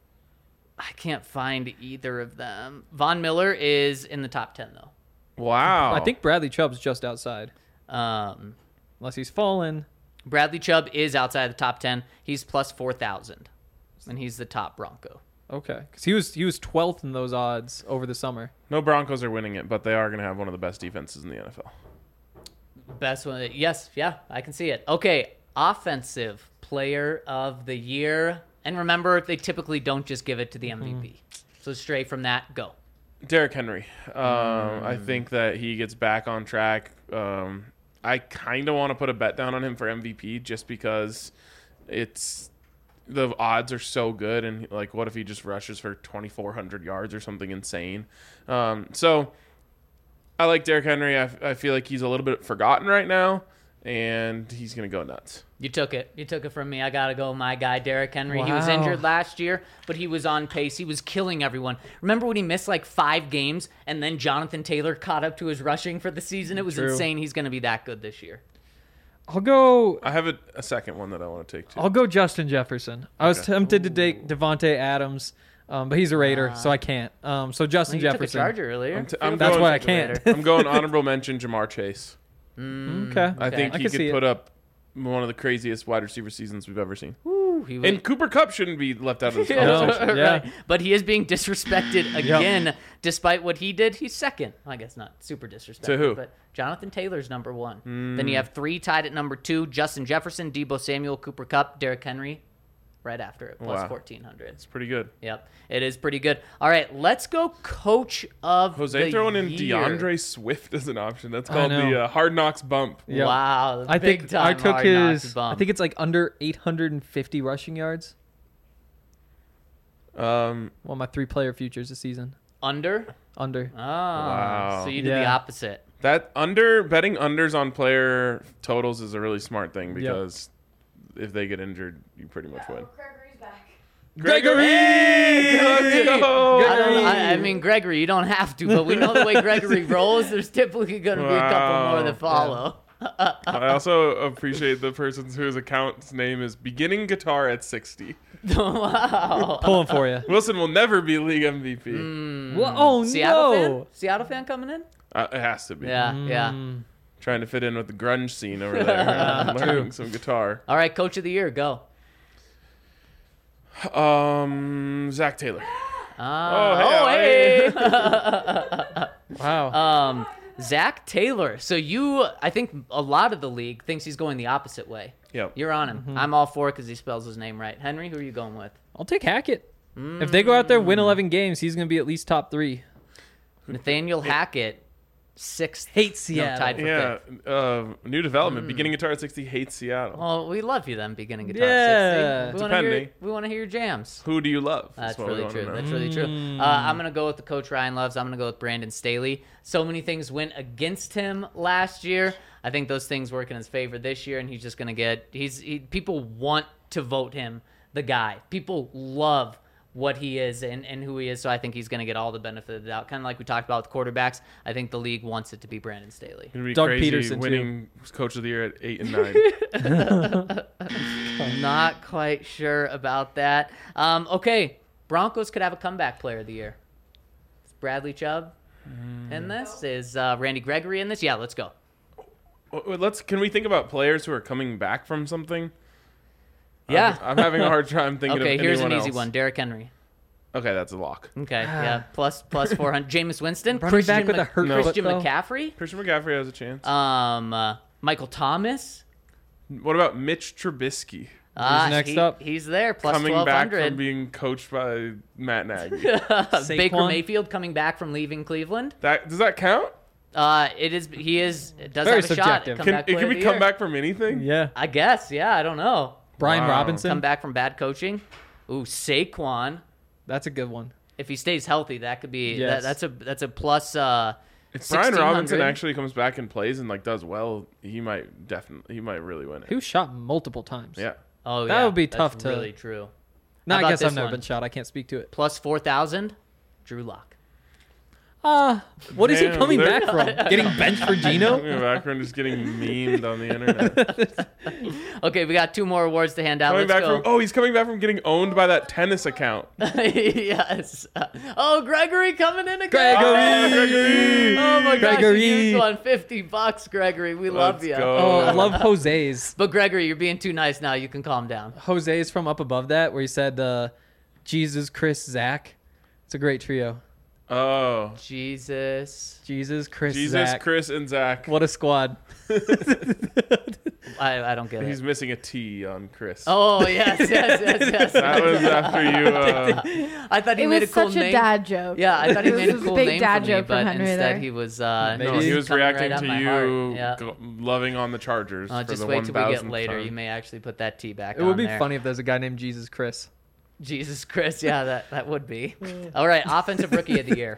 I can't find either of them. Von Miller is in the top ten, though. Wow. I think Bradley Chubb's just outside, Um, unless he's fallen. Bradley Chubb is outside the top ten. He's plus four thousand, and he's the top Bronco. Okay, because he was he was twelfth in those odds over the summer. No Broncos are winning it, but they are going to have one of the best defenses in the N F L. Best one. Yes, yeah, I can see it. Okay, offensive player of the year. And remember, they typically don't just give it to the M V P. So straight from that, go. Derrick Henry. Um, I think that he gets back on track. Um, I kind of want to put a bet down on him for M V P just because it's the odds are so good. And like, what if he just rushes for twenty-four hundred yards or something insane? Um, so I like Derrick Henry. I, I feel like he's a little bit forgotten right now, and he's going to go nuts. You took it. You took it from me. I got to go my guy, Derrick Henry. He was Wow. injured last year, but he was on pace. He was killing everyone. Remember when he missed like five games and then Jonathan Taylor caught up to his rushing for the season? It was True. insane. He's going to be that good this year. I'll go. I have a, a second one that I want to take too. I'll go Justin Jefferson. I was Okay. tempted to take Devontae Adams, um, but he's a Raider, so I can't. Um, so Justin Well, you took a Jefferson. Charger earlier. I'm t- Feel I'm free That's to going- why I take a can't. Raider. I'm going honorable mention Jamar Chase. Mm, Okay. I Okay. think I he can could see it. put up one of the craziest wide receiver seasons we've ever seen. Woo, he was, And Cooper Kupp shouldn't be left out of this No. conversation. Yeah. Right. But he is being disrespected again, despite what he did. He's second. I guess not super disrespected. To who? But Jonathan Taylor's number one. Then you have three tied at number two: Justin Jefferson, Debo Samuel, Cooper Kupp, Derrick Henry, right after it, plus Wow. fourteen hundred. It's pretty good. Yep, it is pretty good. All right, let's go. Coach of Jose the throwing in year. DeAndre Swift as an option. That's I called the know. uh, Hard Knocks bump. Yeah. Wow, I big think time I took Hard Knocks his. bump. I think it's like under eight hundred fifty rushing yards. Um, Well, my three player futures this season. under. Under. Oh, Wow. so you did the Yeah. opposite. that under betting unders on player totals is a really smart thing because if they get injured, you pretty much win. Gregory's back. Gregory, Hey, let's Gregory! go! I, don't, I, I mean, Gregory, you don't have to, but we know the way Gregory rolls. There's typically going to be a couple more Wow. that follow. I also appreciate the person whose account's name is Beginning Guitar at sixty. Wow. Pulling for you. Wilson will never be league M V P. Well, oh Seattle no. fan? Seattle fan coming in? Uh, it has to be. Yeah, yeah. Mm. Trying to fit in with the grunge scene over there. and learning some guitar. All right, coach of the year, go. Um, Zach Taylor. Uh, Oh, hey, hey. Wow. um, Zach Taylor. So you, I think a lot of the league thinks he's going the opposite way. Yep. You're on him. Mm-hmm. I'm all for it because he spells his name right. Henry, who are you going with? I'll take Hackett. If they go out there win eleven games, he's going to be at least top three. Nathaniel Hackett, sixth. Hates No, Seattle. tied for Yeah. fifth. Uh, new Hmm. development. Beginning Guitar at sixty hates Seattle. Well, we love you then, beginning guitar. Yeah. sixty. We want to hear. Depending. We want to hear your jams. Who do you love? That's what we really wanna true. know. That's really true. Mm. Uh, I'm gonna go with the coach Ryan loves. I'm gonna go with Brandon Staley. So many things went against him last year. I think those things work in his favor this year, and he's just gonna get. He's he, people want to vote him the guy. People love what he is and, and who he is. So I think he's gonna get all the benefit of the doubt. Kind of like we talked about with quarterbacks. I think the league wants it to be Brandon Staley. It'd be Doug crazy Peterson, too. winning coach of the year at eight and nine. Not quite sure about that. Um, okay, Broncos could have a comeback player of the year. Is Bradley Chubb in this? Is uh, Randy Gregory in this? Yeah, let's go. Well, Let's. Can we think about players who are coming back from something? Yeah. I'm, I'm having a hard time thinking Okay, of here's an anyone easy else. one. Derrick Henry. Okay, that's a lock. Okay, yeah, plus plus four hundred. Jameis Winston. Running Christian back with Mc- a hurt No. foot, Christian though. McCaffrey. Christian McCaffrey has a chance. Um, uh, Michael Thomas. What about Mitch Trubisky Uh, next he- up? He's there. Plus coming twelve back from hundred. being coached by Matt Nagy? Baker Saquon? Mayfield coming back from leaving Cleveland. that does that count? Uh, it is. He is. It does Very have a subjective. shot. Can, Comeback it player can of we the come year. back from anything? Yeah. I guess. Yeah, I don't know. Brian Wow. Robinson. Come back from bad coaching. Ooh, Saquon. That's a good one. If he stays healthy, that could be. Yes. That, that's a that's a plus. Uh, If Brian Robinson sixteen hundred. actually comes back and plays and like does well, he might definitely he might really win it. He was shot multiple times. Yeah. Oh, That yeah, would be that's tough to- Really true. No, How I about guess I've this never one? been shot. I can't speak to it. Plus four thousand, Drew Lock. Uh, what is he Damn, coming they're- back from? Getting benched for Gino? In the background is getting memed on the internet. Okay, we got two more awards to hand out. coming Let's back go. from oh, he's coming back from getting owned by that tennis account. Yes. Oh, Gregory coming in again. Gregory! Gregory! Oh my gosh, Gregory! you won fifty bucks, Gregory. We love Let's you. go. Oh, I love Jose's. But Gregory, you're being too nice now. You can calm down. Jose's from up above that, where he said, uh, Jesus, Chris, Zach. It's a great trio. Oh, Jesus. Jesus, Chris, Jesus, Zach. Chris, and Zach. What a squad. I, I don't get He's it. missing a T on Chris. Oh, yes, yes, yes, yes. That was after you. Uh, I thought he It made was a cool such a name. dad joke. Yeah, I thought he It made a was a cool big name dad for me, joke from but Henry instead there. he was uh, Maybe. no, he He's was coming reacting right to at my heart. you Yeah. go- loving on the Chargers. Uh, for just the wait till we get one thousandth later. time. You may actually put that T back It on would be there. funny if there's a guy named Jesus Chris. Jesus Christ, yeah, that, that would be. All right, offensive rookie of the year.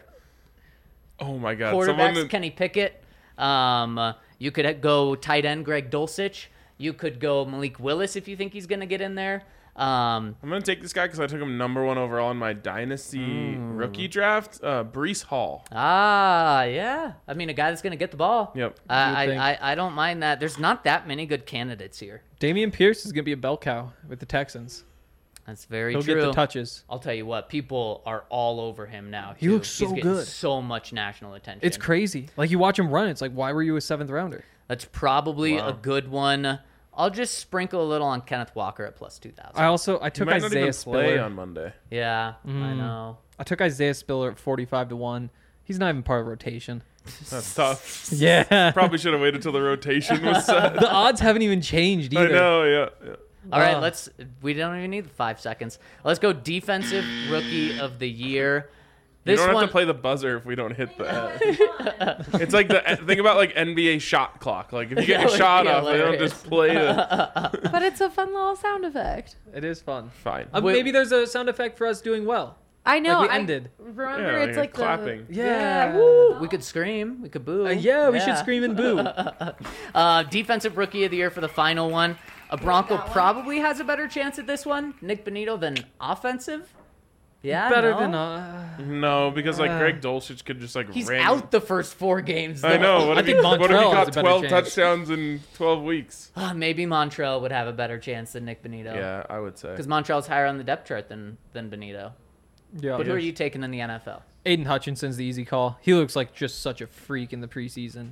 Oh my God! Quarterbacks, Someone that- Kenny Pickett. Um, uh, you could go tight end Greg Dulcich. You could go Malik Willis if you think he's going to get in there. Um, I'm gonna take this guy because I took him number one overall in my dynasty rookie draft. Uh, Brees Hall. ah, yeah. I mean, a guy that's going to get the ball. Yep. I, You would I, I, I don't mind that. There's not that many good candidates here. Damian Pierce is going to be a bell cow with the Texans. That's very He'll true. get the touches. I'll tell you what, people are all over him now. He too. looks so He's getting good. so much national attention. It's crazy. Like, you watch him run, it's like, why were you a seventh rounder? That's probably Wow. a good one. I'll just sprinkle a little on Kenneth Walker at plus two thousand. I also, I He took might not Isaiah even play Spiller. on Monday. Yeah, I Mm. know. I took Isaiah Spiller at forty-five to one. He's not even part of rotation. That's tough. Yeah. Probably should have waited till the rotation was set. The odds haven't even changed either. I know. Yeah. yeah. All right, Uh. let's. We don't even need the five seconds. Let's go defensive rookie of the year. You This don't one, have to play the buzzer if we don't hit that. It's like the think about like N B A shot clock. Like if you get That your would shot be off, they don't hilarious. just play the. But it's a fun little sound effect. It is fun. Fine. Uh, Wait- maybe there's a sound effect for us doing well. I know. Like we I ended. Remember, Yeah, it's like like clapping. The, Yeah. woo. we could scream. We could boo. Uh, yeah, we should scream and boo. Uh, defensive rookie of the year for the final one. A Bronco that one. probably has a better chance at this one, Nick Benito, than offensive. Yeah, Better no? than uh, No, because like Uh, Greg Dulcich could just like. He's ran- out the first four games. I though. know. What I if, he, think what if he Montrell has got a better twelve chance. touchdowns in twelve weeks? Ah, maybe Montrell would have a better chance than Nick Benito. Yeah, I would say. Because Montrell's higher on the depth chart than than Benito. yeah. But who are you taking in the N F L? Aiden Hutchinson's the easy call. He looks like just such a freak in the preseason.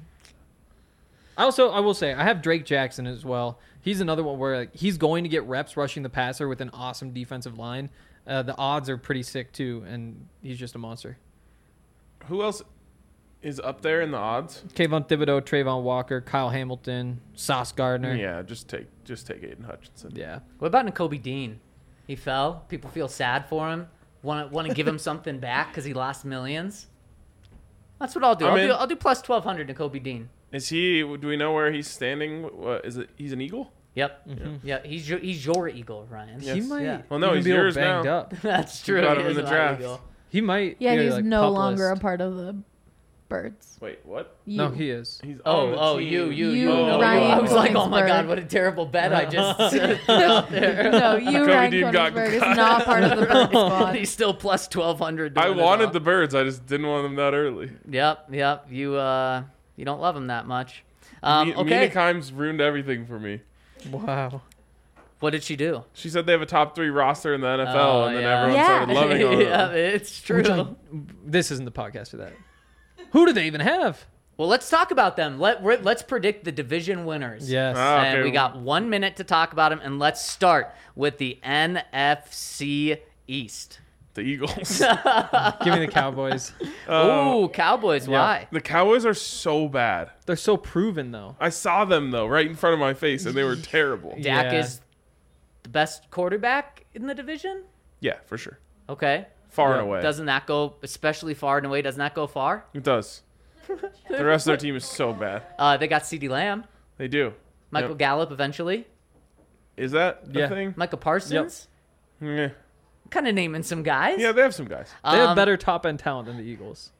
I also, I will say, I have Drake Jackson as well. He's another one where like, he's going to get reps rushing the passer with an awesome defensive line. Uh, the odds are pretty sick too, and he's just a monster. Who else is up there in the odds? Kayvon Thibodeau, Trayvon Walker, Kyle Hamilton, Sauce Gardner. Yeah, just take just take Aiden Hutchinson. Yeah. What about N'Kobe Dean? He fell. People feel sad for him. Want to want to give him something back because he lost millions. That's what I'll do. I'm I'll in. do, I'll do plus twelve hundred N'Kobe Dean. Is he? Do we know where he's standing? What is it? He's an Eagle. Yep. Mhm. Yeah, he's your, he's your eagle, Ryan. He Yes. might Yeah. Well, no, even he's be a little yours banged now. up. That's true. got He him in is the my draft. eagle. He might. Yeah, he's like, no pup longer list. a part of the birds. Wait, what? You. No, he is. He's Oh, on the oh, team. you, you, You, you. no, Ryan you. I was like, oh my Koenigsberg. god, what a terrible bet I just threw out there. No, you, Cody Ryan Dean got Koenigsberg, is cut. not part of the bird squad. He's still plus twelve hundred. I wanted the birds. I just didn't want them that early. Yep, yep. You uh, you don't love him that much. Um, Mi- okay. Mina Kimes ruined everything for me. Wow. What did she do? She said they have a top three roster in the N F L, Oh, and then yeah. everyone Yeah. started loving on yeah, them. it's true. Which I- this isn't the podcast for that. Who do they even have? Well, let's talk about them. Let we're, let's predict the division winners. Yes. Ah, And okay. we got one minute to talk about them, and let's start with the N F C East. The Eagles. Give me the Cowboys. Um, Ooh, Cowboys. yeah. Why? The Cowboys are so bad. They're so proven though. I saw them though, right in front of my face, and they were terrible. Dak Yeah. is the best quarterback in the division. Yeah, for sure. Okay. Far Yeah. and away. Doesn't that go especially far and away? Doesn't that go far? It does. The rest of their team is so bad. Uh, they got CeeDee Lamb, They do. Michael Yep. Gallup eventually, Is that the Yeah. thing? Micah Parsons. Yeah. Kind of naming some guys. Yeah, they have some guys. They have Um, better top end talent than the Eagles.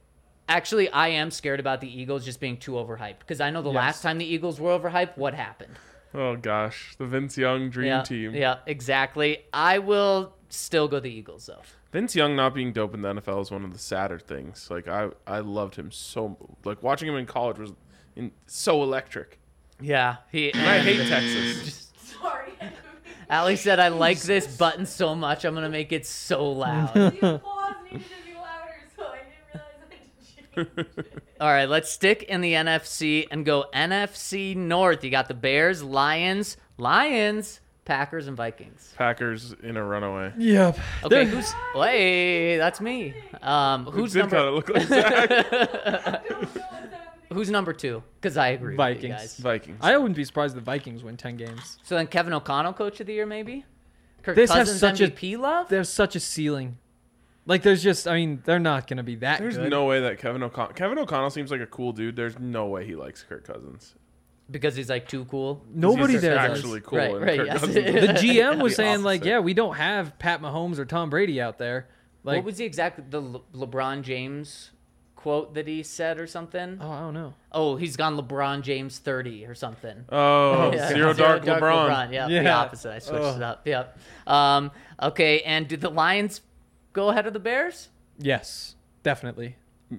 Actually, I am scared about the Eagles just being too overhyped because I know the Yes. last time the Eagles were overhyped, what happened? Oh gosh, the Vince Young dream yeah, team. Yeah, exactly. I will still go the Eagles though. Vince Young not being dope in the N F L is one of the sadder things. Like I, I loved him so. Like watching him in college was in, so electric. Yeah, he. And I hate Texas. Sorry. Ali said, "I like this button so much, I'm gonna make it so loud." The applause needed to be louder, so I didn't realize I had to change it. All right, let's stick in the N F C and go N F C North. You got the Bears, Lions, Lions, Packers, and Vikings. Packers in a runaway. Yep. Okay, who's? Hey, that's me. Um, who's Did number? kind of look like Zach. I don't know what's happening. Who's number two? Because I agree. With you Vikings. guys. Vikings. I wouldn't be surprised if the Vikings win ten games. So then Kevin O'Connell, coach of the year, maybe. Kirk This has Cousins, such a- M V P love. There's such a ceiling. Like, there's just, I mean, they're not going to be that There's good. no way that Kevin O'Connell. Kevin O'Connell seems like a cool dude. There's no way he likes Kirk Cousins. Because he's like too cool. Nobody He's there does. actually cool. Right, and right, Kirk yes. Cousins The is G M was the saying, like, opposite. yeah, we don't have Pat Mahomes or Tom Brady out there. Like, What was the exact the Le- LeBron James quote that he said or something? oh, I don't know. Oh, he's gone LeBron James thirty or something. Oh, Yeah. zero dark LeBron. Yeah, the Yeah. opposite. I switched Ugh. it up. Yep. Um, okay, and did the Lions go ahead of the Bears? Yes, definitely.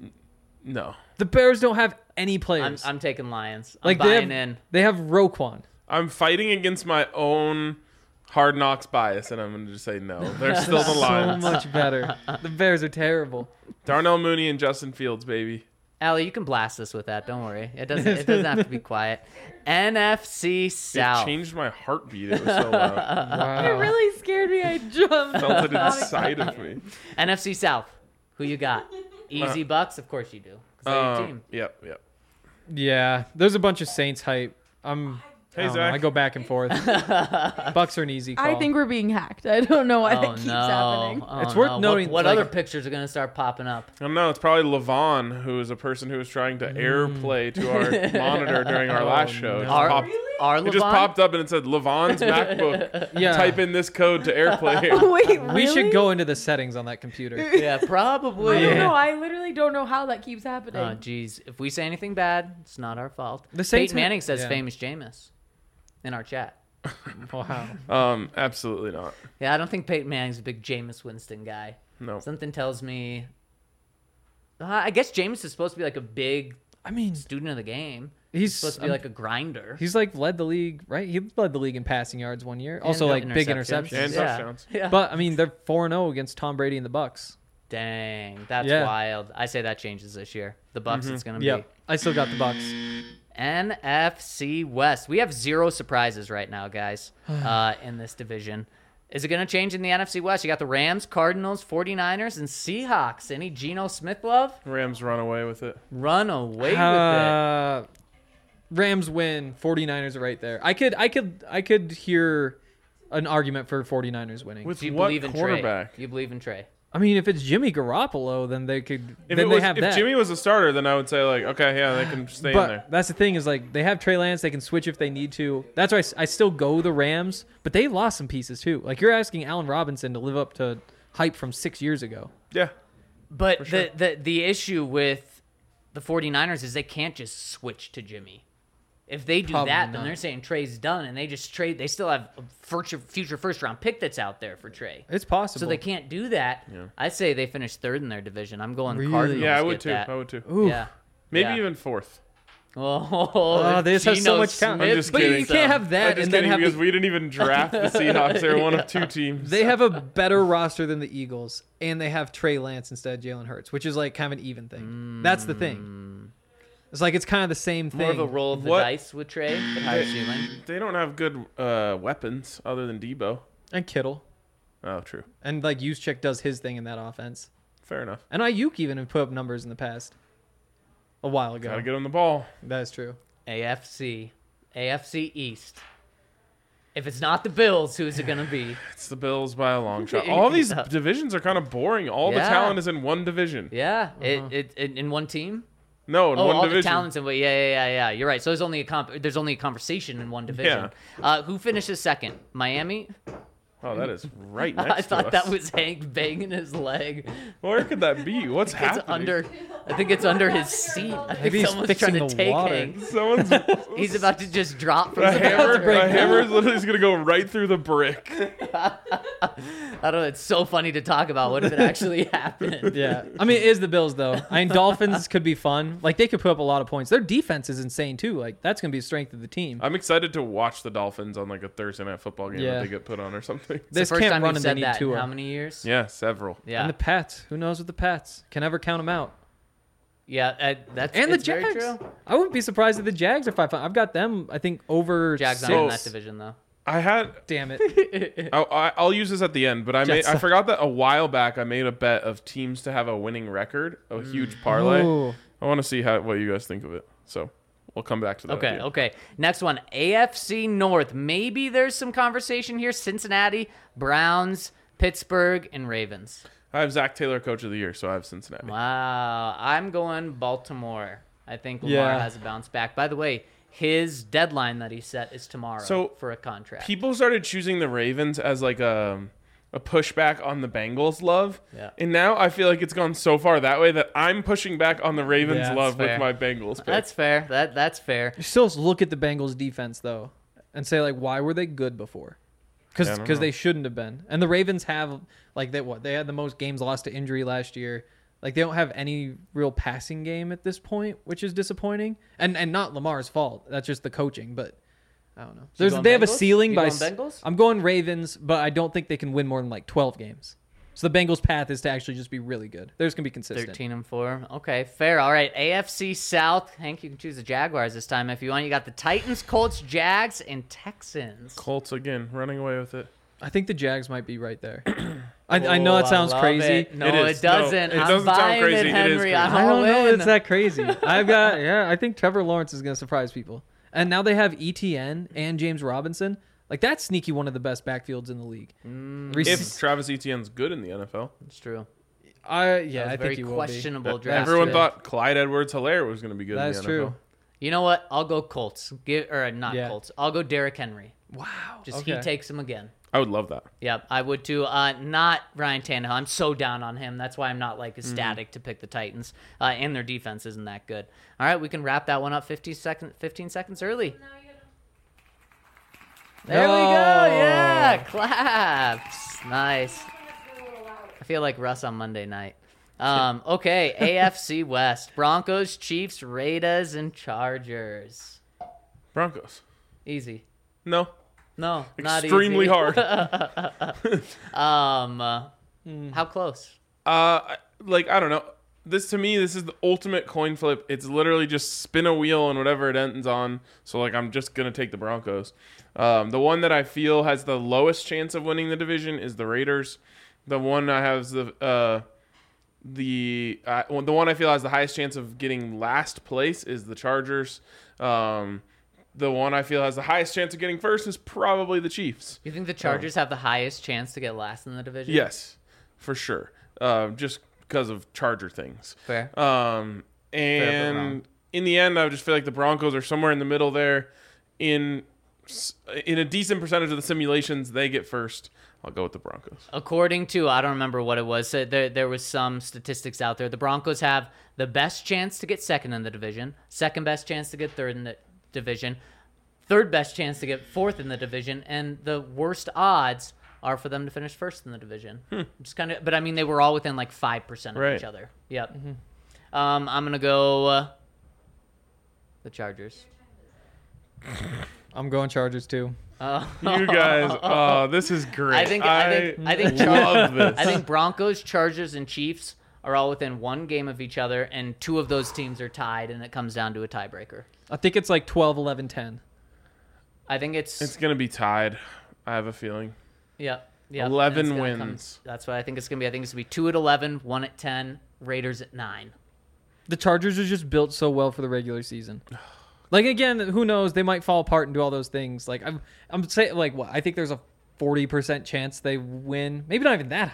No, The Bears don't have any I'm, players. I'm taking Lions. I'm like, they buying have, in. they have Roquan. I'm fighting against my own Hard Knocks bias, and I'm going to just say no. They're still the So Lions. much better. The Bears are terrible. Darnell Mooney and Justin Fields, baby. Allie, you can blast us with that. Don't worry. It doesn't. It doesn't have to be quiet. N F C It South. changed my heartbeat. It was so loud. Wow. It really scared me. I jumped. Felt it inside of me. N F C South. Who you got? Easy Bucks, of course you do. 'Cause they're your Um, team. yep, yep. Yeah, there's a bunch of Saints hype. I'm. Hey, I, don't know, Zach. I go back and forth. Bucks are an easy call. I think we're being hacked. I don't know why Oh that keeps no! happening. Oh, It's worth no. noting, What, what like- other pictures are gonna start popping up? I don't know. It's probably Levon, who is a person who was trying to airplay to our monitor during our last show. It just, Are popped, are it just Levon? popped up and it said Levon's MacBook. Yeah. Type in this code to airplay. Wait, We should really? go into the settings on that computer. Yeah, probably. I don't Yeah. know. I literally don't know how that keeps happening. Oh, jeez. If we say anything bad, it's not our fault. The Saints Peyton have- Manning says yeah. famous Jameis in our chat. Wow. Um, absolutely not. Yeah, I don't think Peyton Manning's a big Jameis Winston guy. No. Something tells me. Uh, I guess Jameis is supposed to be like a big I mean, student of the game. he's He's supposed to be um, like a grinder. he's like led the league, right? He led the league in passing yards one year. Also, no like big interceptions. interceptions. And Yeah. touchdowns. Yeah. But I mean, they're four and zero against Tom Brady and the Bucks. Dang, that's Yeah. wild. I say that changes this year. The Bucks, it's gonna Yeah, be I still got the Bucks. N F C West. We have zero surprises right now, guys, uh, in this division. Is it going to change in the N F C West? You got the Rams, Cardinals, 49ers, and Seahawks. Any Geno Smith love? Rams run away with it. Run away with it. Uh, Rams win. 49ers are right there. I could, I could, I could hear an argument for 49ers winning. With Do you what believe in quarterback? Trey? You believe in Trey? I mean, if it's Jimmy Garoppolo, then they could. If, then it they was, have if that. Jimmy was a starter, then I would say, like, okay, yeah, they can stay but in there. that's the thing is like they have Trey Lance. They can switch if they need to. That's why I s- I, still go the Rams. But they lost some pieces too. Like you're asking Allen Robinson to live up to hype from six years ago. Yeah. But sure. the, the, the issue with the 49ers is they can't just switch to Jimmy. If they do Probably that, not. then they're saying Trey's done, and they just trade. They still have a future, future first round pick that's out there for Trey. It's possible. So they can't do that. Yeah. I say they finish third in their division. I'm going Really? Cardinals. Yeah, I get would too. that. I would too. Ooh. Yeah. Maybe Yeah. even fourth. Oh, Oh, they just have so Geno much talent. Smith I'm just but kidding. you can't have I'm that just and then kidding have because the, we didn't even draft the Seahawks. They're one of two teams. they have a better roster than the Eagles, and they have Trey Lance instead of Jalen Hurts, which is like kind of an even thing. That's the thing. It's like it's kind of the same thing. More of a roll of the What- dice with Trey, but higher ceiling. They don't have good uh, weapons other than Debo. And Kittle, Oh, true. and like Juszczyk does his thing in that offense, Fair enough. and Ayuk even have put up numbers in the past. A while ago. Gotta get him the ball. That is true. A F C, A F C East. If it's not the Bills, who's it gonna be? It's the Bills by a long shot. All these Yeah. divisions are kind of boring. All Yeah. the talent is in one division. Yeah, it, it, it in one team. No, in Oh, one all division. the talents in yeah, yeah, yeah, yeah. You're right. So there's only a comp- there's only a conversation in one division. Uh, who finishes second? Miami. Oh, that is right next I to thought us. that was Hank banging his leg. Where could that be? What's It's happening? under. I think it's under his seat. I think Maybe he's someone's fixing trying to the take water. Hank. Someone's He's about to just drop from a the hammer. bathroom. A hammer is literally just gonna go right through the brick. I don't know. It's so funny to talk about. What if it actually happened? Yeah, I mean, it is the Bills though. I mean, Dolphins could be fun. Like they could put up a lot of points. Their defense is insane too. Like that's gonna be a strength of the team. I'm excited to watch the Dolphins on like a Thursday night football game Yeah. that they get put on or something. It's the This first can't time run you've and they said need that in Tua. how many years? Yeah, several. Yeah. And the Pats. Who knows with the Pats? Can never count them out. yeah. Uh, that's And the it's very Jags. true. I wouldn't be surprised if the Jags are five. I've got them. I think over. Jags six. not in that division though. I had. Damn it. I'll, I- I'll use this at the end, but I made. Jets. I forgot that a while back I made a bet of teams to have a winning record, a huge parlay. Ooh. I want to see how what you guys think of it. So we'll come back to that. Okay, at the end. okay. Next one, A F C North. Maybe there's some conversation here. Cincinnati, Browns, Pittsburgh, and Ravens. I have Zach Taylor, coach of the year, so I have Cincinnati. Wow. I'm going Baltimore. I think Lamar Yeah. has a bounce back. By the way, his deadline that he set is tomorrow So, for a contract. People started choosing the Ravens as like a a pushback on the Bengals love, Yeah. and now I feel like it's gone so far that way that I'm pushing back on the Ravens Yeah, that's love fair. with my Bengals pick. That's fair. That That's fair. You still look at the Bengals defense though, and say like, why were they good before? Because Yeah, I don't know. they shouldn't have been. And the Ravens have like they what they had the most games lost to injury last year. Like they don't have any real passing game at this point, which is disappointing. And and not Lamar's fault. That's just the coaching. But I don't know. There's going they have a Bengals? ceiling You by. going s- Bengals? I'm going Ravens, but I don't think they can win more than like twelve games. So the Bengals' path is to actually just be really good. They're just gonna be consistent. thirteen and four. Okay, fair. All right, A F C South. Hank, you can choose the Jaguars this time if you want. You got the Titans, Colts, Jags, and Texans. Colts again, running away with it. I think the Jags might be right there. I, I know Oh, that sounds love crazy. it. No, It it, is. No, doesn't. it I'm doesn't sound buying crazy. it, It is Henry. crazy. I'm I all don't know. in. It's that crazy. I've got yeah. I think Trevor Lawrence is going to surprise people. And now they have E T N and James Robinson. Like that's sneaky one of the best backfields in the league. Rec- If Travis Etienne's good in the N F L, It's true. I yeah, That was I very think he will be. questionable draft. everyone pick. thought Clyde Edwards-Helaire was going to be good That's in the N F L. true. You know what? I'll go Colts. Give or not Yeah. Colts. I'll go Derrick Henry. Wow. Just okay. he takes him again. I would love that. Yep, I would too. Uh, not Ryan Tannehill. I'm so down on him. That's why I'm not like ecstatic to pick the Titans. Uh, and their defense isn't that good. All right, we can wrap that one up fifteen seconds, fifteen seconds early. There we go. No. Yeah, claps. Nice. I feel like Russ on Monday night. Um, okay, A F C West. Broncos, Chiefs, Raiders, and Chargers. Broncos. Easy. No. No, not Extremely easy. hard. Um, uh, how close? Uh, like I don't know. This to me, this is the ultimate coin flip. It's literally just spin a wheel and whatever it ends on. So like, I'm just gonna take the Broncos. Um, the one that I feel has the lowest chance of winning the division is the Raiders. The one I have is the uh, the uh, the one I feel has the highest chance of getting last place is the Chargers. Um, the one I feel has the highest chance of getting first is probably the Chiefs. You think the Chargers have the highest chance to get last in the division? Yes, for sure. Uh, just because of Charger things. Fair. Um, but and wrong. in the end, I just feel like the Broncos are somewhere in the middle there. In in a decent percentage of the simulations, they get first. I'll go with the Broncos. According to, I don't remember what it was. So there, there was some statistics out there. The Broncos have the best chance to get second in the division, second best chance to get third in the division, third best chance to get fourth in the division, and the worst odds are for them to finish first in the division. Just kind of, but I mean, they were all within like five percent of Right. each other. Yep. Um, I'm gonna go uh, the Chargers. I'm going Chargers too. Uh, You guys, oh, this is great. I think I think I think love this. I think Broncos, Chargers, and Chiefs are all within one game of each other, and two of those teams are tied, and it comes down to a tiebreaker. I think it's like twelve, eleven, ten. I think it's, It's gonna be tied. I have a feeling. yeah, yeah. eleven and it's gonna come- wins. that's what I think it's gonna be. I think it's gonna be two at eleven, one at ten, Raiders at nine. The Chargers are just built so well for the regular season. Like again, who knows? They might fall apart and do all those things. Like I'm, I'm saying, like what? I think there's a forty percent chance they win. Maybe not even that high.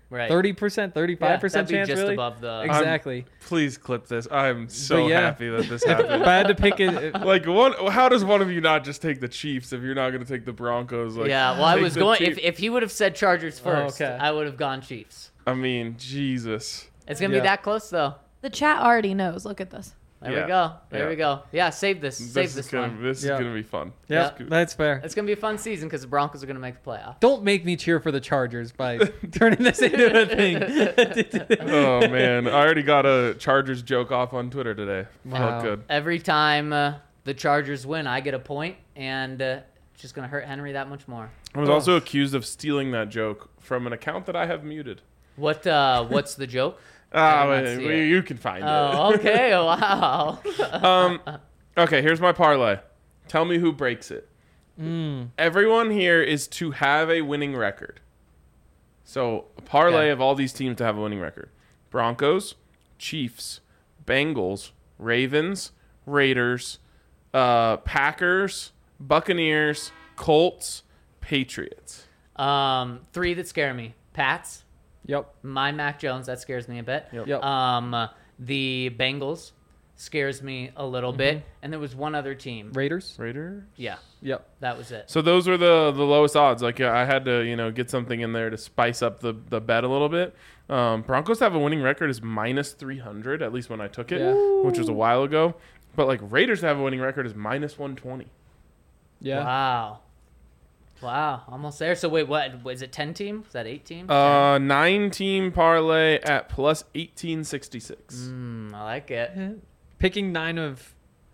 Right. thirty percent, thirty-five percent yeah, that'd be chance, just really? above the. Exactly. Please clip this. I'm so yeah. happy that this happened. If I had to pick it, Like one, how does one of you not just take the Chiefs if you're not going to take the Broncos? Like, yeah, well, I take was the going. Chiefs. If, if he would have said Chargers first, okay. I would have gone Chiefs. I mean, Jesus. It's gonna Yeah. be that close though. The chat already knows. Look at this. There Yeah. we go. There Yeah. we go. Yeah, save this. This Save is this gonna, one. This Yeah. is gonna be fun. yeah, Yeah. that's fair. It's gonna be a fun season because the Broncos are gonna make the playoffs. Don't make me cheer for the Chargers by turning this into a thing. Oh man, I already got a Chargers joke off on Twitter today. Wow. Felt good. Every time uh, the Chargers win, I get a point, and uh, it's just gonna hurt Henry that much more. I was also accused of stealing that joke from an account that I have muted. What? Uh, what's the joke? Ah, did not wait, see we- it. you can find Oh, okay. Wow. it. Um, okay, here's my parlay. Tell me who breaks it. Mm. Everyone here is to have a winning record. So a parlay Okay. of all these teams to have a winning record: Broncos, Chiefs, Bengals, Ravens, Raiders, uh, Packers, Buccaneers, Colts, Patriots. Um, three that scare me: Pats, Yep. my Mac Jones, that scares me a bit. Yep. Yep. Um, the Bengals scares me a little Mm-hmm. bit, and there was one other team. Raiders. Raiders. Yeah, Yep. that was it. So those were the the lowest odds. Like I had to, you know, get something in there to spice up the the bet a little bit. Um, Broncos have a winning record is minus three hundred, at least when I took it, Yeah. which was a while ago. But like Raiders have a winning record is minus one twenty. Yeah. Wow. Wow, almost there. So wait, what was it? Ten team? Was that eight team? Uh, nine team parlay at plus eighteen sixty six. Mm, I like it. Picking nine of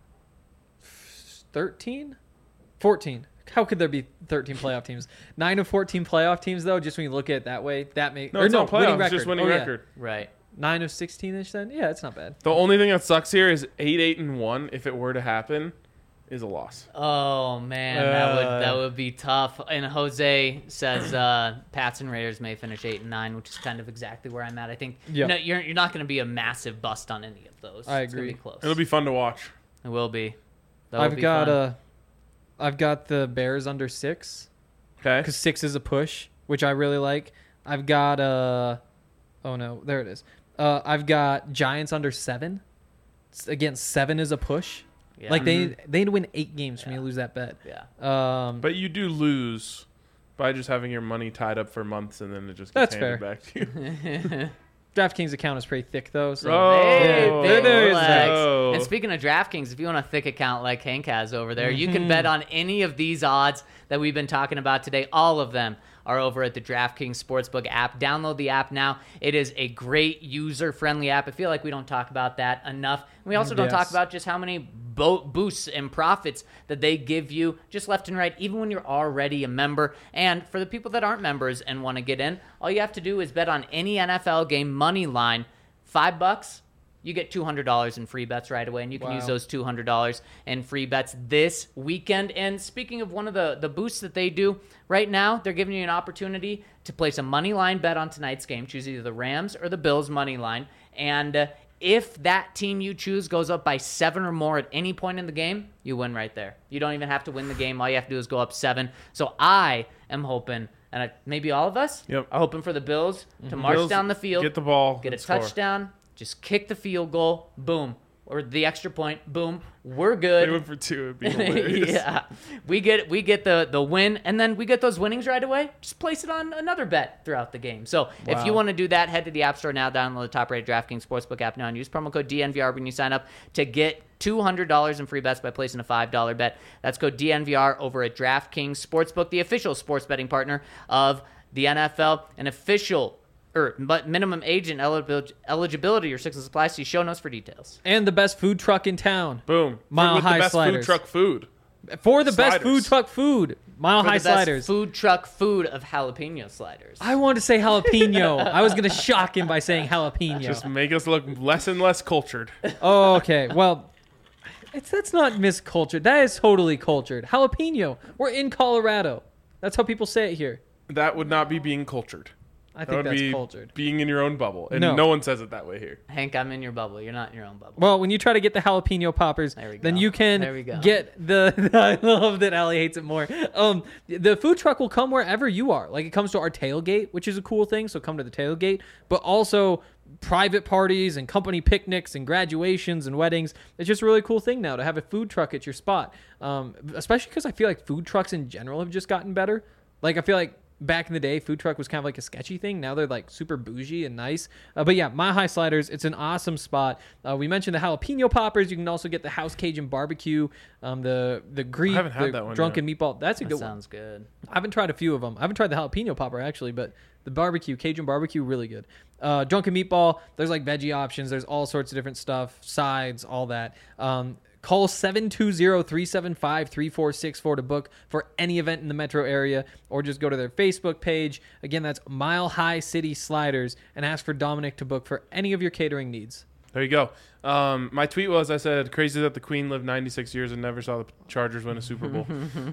thirteen, fourteen. How could there be thirteen playoff teams? Nine of fourteen playoff teams, though. Just when you look at it that way, that makes No, it's not playoffs. It's just winning Oh, yeah. record. Right. Nine of sixteen-ish. Then yeah, it's not bad. The only thing that sucks here is eight eight and one. If it were to happen, is a loss. Oh man, that would Uh. that would be tough. And Jose says uh, Pats and Raiders may finish eight and nine, which is kind of exactly where I'm at. I think Yeah. no, you're you're not going to be a massive bust on any of those. I It's gonna agree. be close. It'll be fun to watch. It will be. That will I've be got fun. uh, I've got the Bears under six Okay. because six is a push, which I really like. I've got uh, oh no, there it is. Uh, I've got Giants under seven. S- Again, seven is a push. Yeah. Like they they'd win eight games for me Yeah. to lose that bet. yeah. Um, But you do lose by just having your money tied up for months and then it just That's gets handed fair. back to you. DraftKings account is pretty thick though. So Oh. Hey, Oh, big there is flex. that. Oh. And speaking of DraftKings, if you want a thick account like Hank has over there, you can Mhm. bet on any of these odds that we've been talking about today. All of them are over at the DraftKings Sportsbook app. Download the app now. It is a great user-friendly app. I feel like we don't talk about that enough. We also don't Yes. talk about just how many bo- boosts and profits that they give you just left and right, even when you're already a member. And for the people that aren't members and want to get in, all you have to do is bet on any N F L game money line. Five bucks, you get two hundred dollars in free bets right away, and you can Wow. use those two hundred dollars in free bets this weekend. And speaking of one of the, the boosts that they do right now, they're giving you an opportunity to place a money line bet on tonight's game. Choose either the Rams or the Bills money line. And uh, if that team you choose goes up by seven or more at any point in the game, you win right there. You don't even have to win the game. All you have to do is go up seven. So I am hoping, and I, maybe all of us Yep. are hoping for the Bills to march Bills down the field, Get the ball. get a and score. touchdown, just kick the field goal, boom, or the extra point, boom, we're They good. went for two. It'd be hilarious. yeah, we get we get the the win, and then we get those winnings right away. Just place it on another bet throughout the game. So if you Wow. want to do that, head to the App Store now, download the top-rated DraftKings Sportsbook app now, and use promo code D N V R when you sign up to get two hundred dollars in free bets by placing a five dollar bet. That's code D N V R over at DraftKings Sportsbook, the official sports betting partner of the N F L, an official or but minimum age and eligibil- eligibility restrictions apply. See show notes for details. and the best food truck in town Boom. Mile With High the best Sliders. food truck food. for the best Sliders. food truck food. Mile For High the best Sliders. food truck food of jalapeno sliders. I wanted to say jalapeno. I was gonna shock him by saying jalapeno. Just make us look less and less cultured. Oh, okay. Well, it's that's not miscultured. That is totally cultured. Jalapeno. We're in Colorado. That's how people say it here. That would not be being cultured. I That think would that's be cultured. being in your own bubble, and No. no. one says it that way here. Hank, I'm in your bubble. You're not in your own bubble. Well, when you try to get the jalapeno poppers, There we then go. you can There we go. get the. I love that Allie hates it more. Um, the food truck will come wherever you are. Like it comes to our tailgate, which is a cool thing. So come to the tailgate, but also private parties and company picnics and graduations and weddings. It's just a really cool thing now to have a food truck at your spot. Um, especially because I feel like food trucks in general have just gotten better. Like I feel like. Back in the day, food truck was kind of like a sketchy thing. Now they're like super bougie and nice. Uh, but yeah, Mile High Sliders, it's an awesome spot. Uh, we mentioned the jalapeno poppers. You can also get the House Cajun barbecue, um, the the Greek, I haven't had the that one drunken meatball. That's a That good one. sounds good. I haven't tried a few of them. I haven't tried the jalapeno popper actually, but the barbecue, Cajun barbecue, really good. Uh, drunken meatball. There's like veggie options. There's all sorts of different stuff, sides, all that. Um, Call seven two zero, three seven five, three four six four to book for any event in the metro area, or just go to their Facebook page. Again, that's Mile High City Sliders, and ask for Dominic to book for any of your catering needs. There you go. Um, my tweet was, I said, crazy that the Queen lived ninety-six years and never saw the Chargers win a Super Bowl.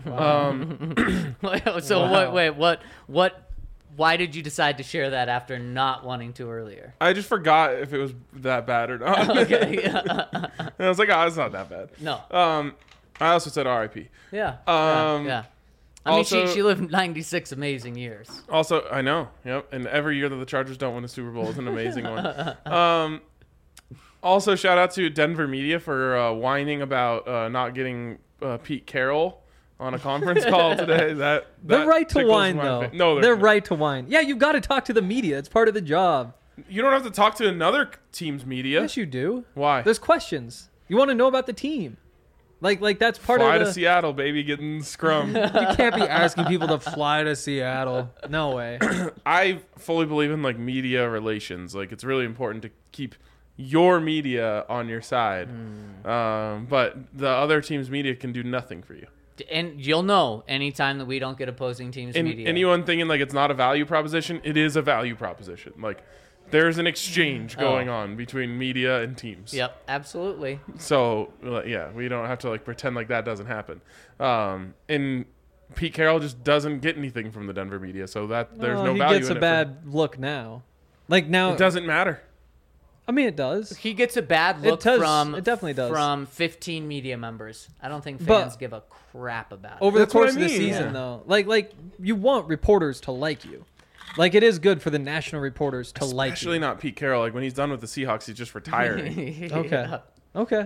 um, so Wow. what? Wait, what? What? Why did you decide to share that after not wanting to earlier? I just forgot if it was that bad or not. Okay. And I was like, oh, it's not that bad. No. Um, I also said R I P. Yeah. Um, yeah. yeah. I mean, she also- she lived ninety-six amazing years. Also, I know. Yep. And every year that the Chargers don't win a Super Bowl is an amazing one. Um, also, shout out to Denver Media for uh, whining about uh, not getting uh, Pete Carroll on a conference call today. That, They're that right to tickles whine, my though. fa- No, they're, they're, not. right to whine. Yeah, you've got to talk to the media. It's part of the job. You don't have to talk to another team's media. Yes, you do. Why? There's questions. You want to know about the team. Like, like that's part Fly of to the... Seattle, baby, getting scrum. You can't be asking people to fly to Seattle. No way. I fully believe in like media relations. Like it's really important to keep your media on your side. Um, but the other team's media can do nothing for you. And you'll know anytime that we don't get opposing teams' And media. anyone thinking like it's not a value proposition, it is a value proposition. Like there's an exchange going Oh. on between media and teams. Yep, absolutely. So like, yeah, we don't have to like pretend like that doesn't happen. Um, and Pete Carroll just doesn't get anything from the Denver media, so that there's Well, no he value gets in a it bad look now. Like for, now, it doesn't matter. I mean, it does. He gets a bad It look does- from it definitely does. from fifteen media members. I don't think But- fans give a crap about it. Over That's the what course I of the mean, season, yeah. though, like like you want reporters to like you. Like it is good for the national reporters to like Especially you. not Pete Carroll. Like when he's done with the Seahawks, he's just retiring. Okay. Yeah. Okay.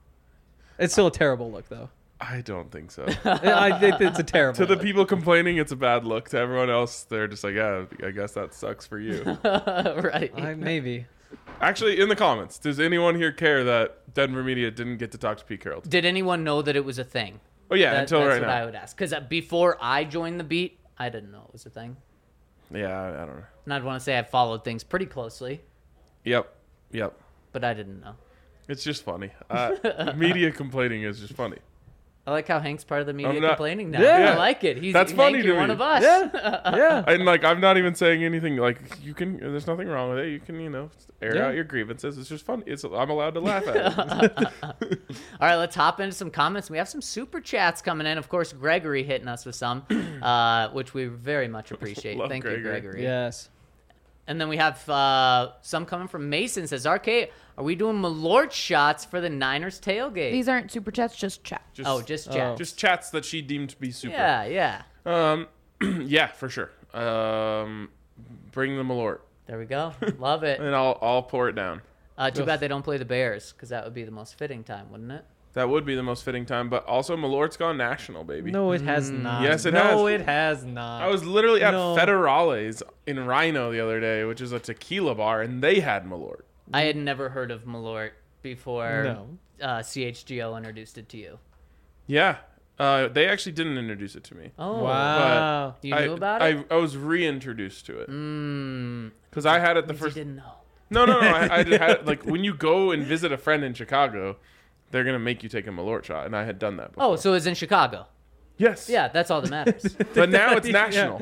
It's still a terrible look, though. I don't think so. I think it's a terrible. To the look. people complaining, it's a bad look. To everyone else, they're just like, yeah, I guess that sucks for you. right. I, maybe. Actually, in the comments, does anyone here care that Denver media didn't get to talk to Pete Carroll? Did anyone know that it was a thing? Oh yeah, That- until that's right what now. I would ask. Because before I joined the beat, I didn't know it was a thing. Yeah, I, I don't know. And I'd want to say I followed things pretty closely, Yep, yep. but I didn't know. It's just funny. Uh, media complaining is just funny. I like how Hank's part of the media not- complaining now. Yeah. I like it. He's That's Hank, funny you're to one me. of us. Yeah. Yeah. And like, I'm not even saying anything. Like, you can. There's nothing wrong with it. You can, you know, air Yeah. out your grievances. It's just funny. It's. I'm allowed to laugh at it. All right, let's hop into some comments. We have some super chats coming in. Of course, Gregory hitting us with some, uh, which we very much appreciate. Love Thank you, Gregory. Gregory. Yes. And then we have uh, some coming from Mason. Says, R K, are we doing Malort shots for the Niners tailgate? These aren't super chats, just chat. Just, oh, just Oh. chat. just chats that she deemed to be super. Yeah, yeah. Um, yeah, for sure. Um, bring the Malort, There we go. Love it. and I'll I'll pour it down. Uh, too bad they don't play the Bears, because that would be the most fitting time, wouldn't it? That would be the most fitting time. But also, Malort's gone national, baby. No, it has not. Yes, it no, has. it has not. I was literally at No. Federales in Rhino the other day, which is a tequila bar, and they had Malort. I had never heard of Malort before No. uh, C H G O introduced it to you. Yeah, uh, they actually didn't introduce it to me. Oh, Wow. you I, knew about I, it? I was reintroduced to it Mmm. because I had it the You first. didn't know. No, no, no. I, I just had like when you go and visit a friend in Chicago, they're gonna make you take a Malort shot, and I had done that before. Oh, so it's in Chicago. yes, Yeah, that's all that matters. But now it's national.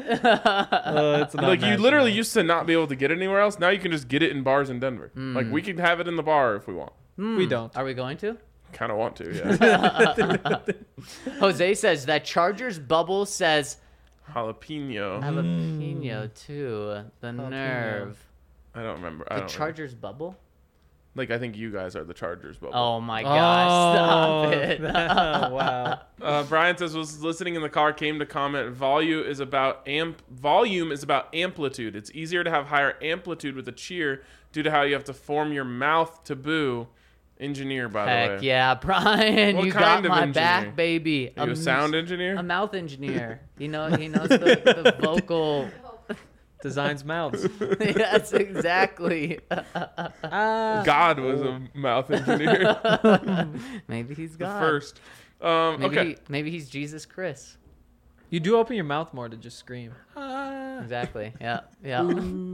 Uh, it's not Like you national. literally used to not be able to get it anywhere else. Now you can just get it in bars in Denver. Like we can have it in the bar if we want. We don't. Are we going to? Kind of want to, yeah. Jose says that Chargers bubble says Jalapeno. Jalapeno too. The Jalapeno. nerve. I don't remember. I The don't Chargers bubble. Like, I think you guys are the Chargers bubble. Oh my gosh! Stop Oh, it. wow. Uh, Brian says, was listening in the car, came to comment, volume is about amp. Volume is about amplitude. It's easier to have higher amplitude with a cheer due to how you have to form your mouth to boo. Engineer, by the Heck way. yeah, Brian! What you kind got of my engineer? back, baby. Are you a m- sound engineer? A mouth engineer. You know, he knows the, the vocal. Designs mouths. Yes, exactly. Ah. God was a mouth engineer. Maybe he's the God. first. Um, Maybe okay. he, maybe he's Jesus Chris. You do open your mouth more to just scream. Ah. Exactly. Yeah. Yeah.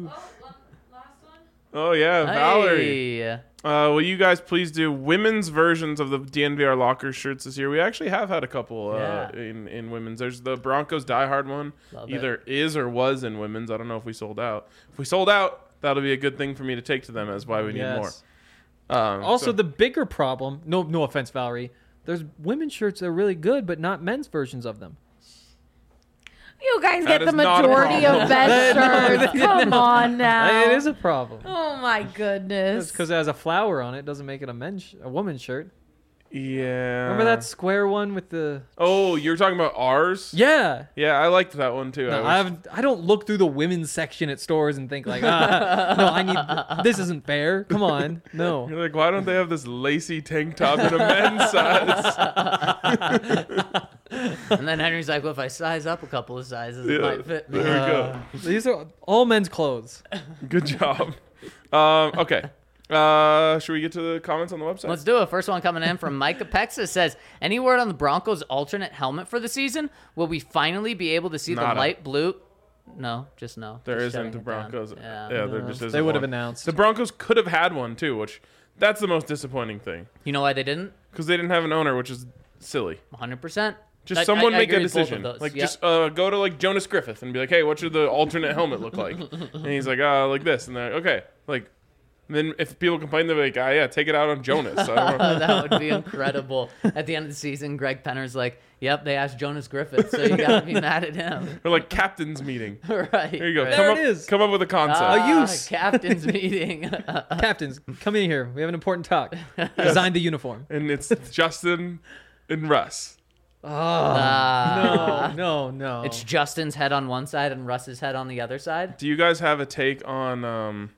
Oh, yeah, Valerie. Hey. Uh, will you guys please do women's versions of the D N V R locker shirts this year? We actually have had a couple uh, Yeah. in, in women's. There's the Broncos Die Hard one. Love it. Either is or was in women's. I don't know if we sold out. If we sold out, that'll be a good thing for me to take to them as why we need Yes. more. Um, Also, so- the bigger problem. No, no offense, Valerie. There's women's shirts that are really good, but not men's versions of them. You guys That get the is not a majority problem. of best shirts. Come on now. It is a problem. Oh my goodness. Because it has a flower on it doesn't make it a men's, sh- a woman's shirt. yeah. Remember that square one with the? Oh, you're talking about ours? Yeah. Yeah, I liked that one too. No, I I, wish- haven't, I don't look through the women's section at stores and think like, ah, no, I need. This isn't fair. Come on, no. You're like, why don't they have this lacy tank top in a men's size? And then Henry's like, well, if I size up a couple of sizes, it Yeah, might fit me. there we go. Uh, These are all men's clothes. Good job. Um, okay. Uh, should we get to the comments on the website? Let's do it. First one coming in from Micah Pexa says, any word on the Broncos' alternate helmet for the season? Will we finally be able to see Nada. the light blue? No, just no. There Just isn't shutting the it down. Broncos. Yeah. Yeah, there No, just isn't they would have one. announced. The Broncos could have had one too, which that's the most disappointing thing You know why they didn't? because they didn't have an owner, which is silly. one hundred percent. Just I- someone I- I make a agree with both of decision. those. Like Yep. just uh, go to like Jonas Griffith and be like, hey, what should the alternate helmet look like? And he's like, uh, like this, and they're like, okay, like. And then if people complain, they're like, ah, yeah, take it out on Jonas. I don't know. That would be incredible. At the end of the season, Greg Penner's like, yep, they asked Jonas Griffith, so you got to be mad at him. Or like captain's meeting. Right. There you go. right. Come There up, it is. Come up with a concept. Ah, use. Captain's meeting. Captains, come in here. We have an important talk. Design the uniform. and it's Justin and Russ. Oh Ah. no, no, no. It's Justin's head on one side and Russ's head on the other side. Do you guys have a take on? Um,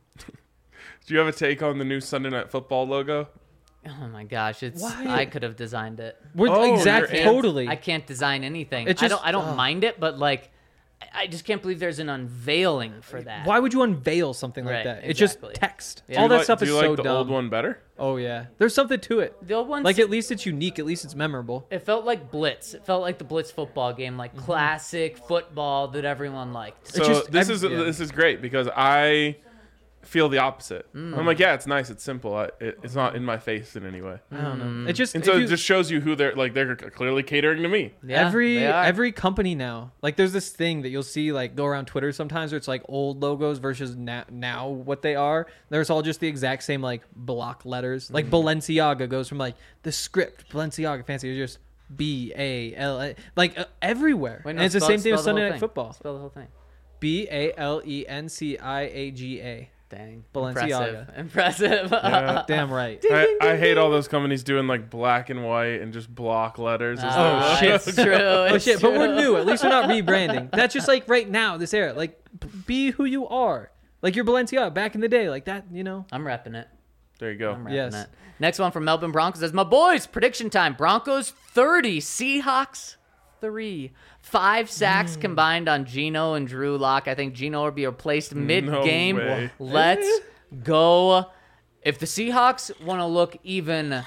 do you have a take on the new Sunday Night Football logo? Oh my gosh, it's Why? I could have designed it. We're Oh, exact, you're totally. I can't design anything. It I just- don't I don't ugh. mind it, but like I- I just can't believe there's an unveiling for that. Why would you unveil something like Right, that? It's just exactly. text. Yeah. All Do you that like- stuff do is you so like the dumb. old one better? Oh yeah, there's something to it. The old ones Like at least it's unique. At least it's memorable. it felt like Blitz. It felt like the Blitz football game, like Mm-hmm. classic football that everyone liked. So just- this I've- is yeah. this is great because I feel the opposite. Mm. I'm like, yeah, it's nice, it's simple. I, it, it's not in my face in any way. I don't Mm. know. It just And if so you- it just shows you who they're like. They're clearly catering to me. Yeah, every they are. every company now, like there's this thing that you'll see like go around Twitter sometimes where it's like old logos versus now, now what they are. There's all just the exact same like block letters. Like Balenciaga goes from like the script Balenciaga fancy to just B A L A like uh, everywhere. Wait, and no, it's the spell- same thing spell with the whole Sunday Night thing. Football. Spell the whole thing. B A L E N C I A G A. Dang. Balenciaga. Impressive. Impressive. Yeah. Damn right. I, I hate all those companies doing like black and white and just block letters. as Oh, their shit. logo. It's true. Oh It's shit! But we're true. new. At least we're not rebranding. That's just like right now, this era. Like, b- be who you are. Like your Balenciaga back in the day, like that. You know. I'm repping it. There you go. I'm repping Yes. it. Next one from Melbourne Broncos says, my boys, prediction time. Broncos thirty, Seahawks three. Five sacks Hmm. combined on Geno and Drew Lock. I think Geno will be replaced mid-game. way. Let's go. If the Seahawks want to look even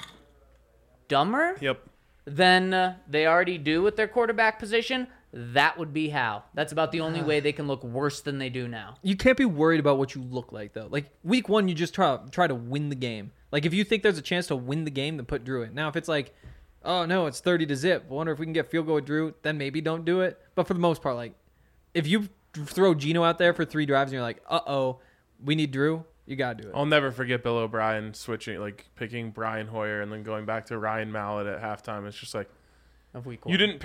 dumber Yep. than uh, they already do with their quarterback position, that would be how. That's about the only way they can look worse than they do now. You can't be worried about what you look like though. Like week one, you just try try to win the game. Like if you think there's a chance to win the game, then put Drew in. Now if it's like, oh no, it's thirty to zip. I wonder if we can get field goal with Drew. Then maybe don't do it. But for the most part, like if you throw Geno out there for three drives and you're like, uh oh, we need Drew. You gotta do it. I'll never forget Bill O'Brien switching, like picking Brian Hoyer and then going back to Ryan Mallett at halftime. It's just like Of week one. you didn't pick.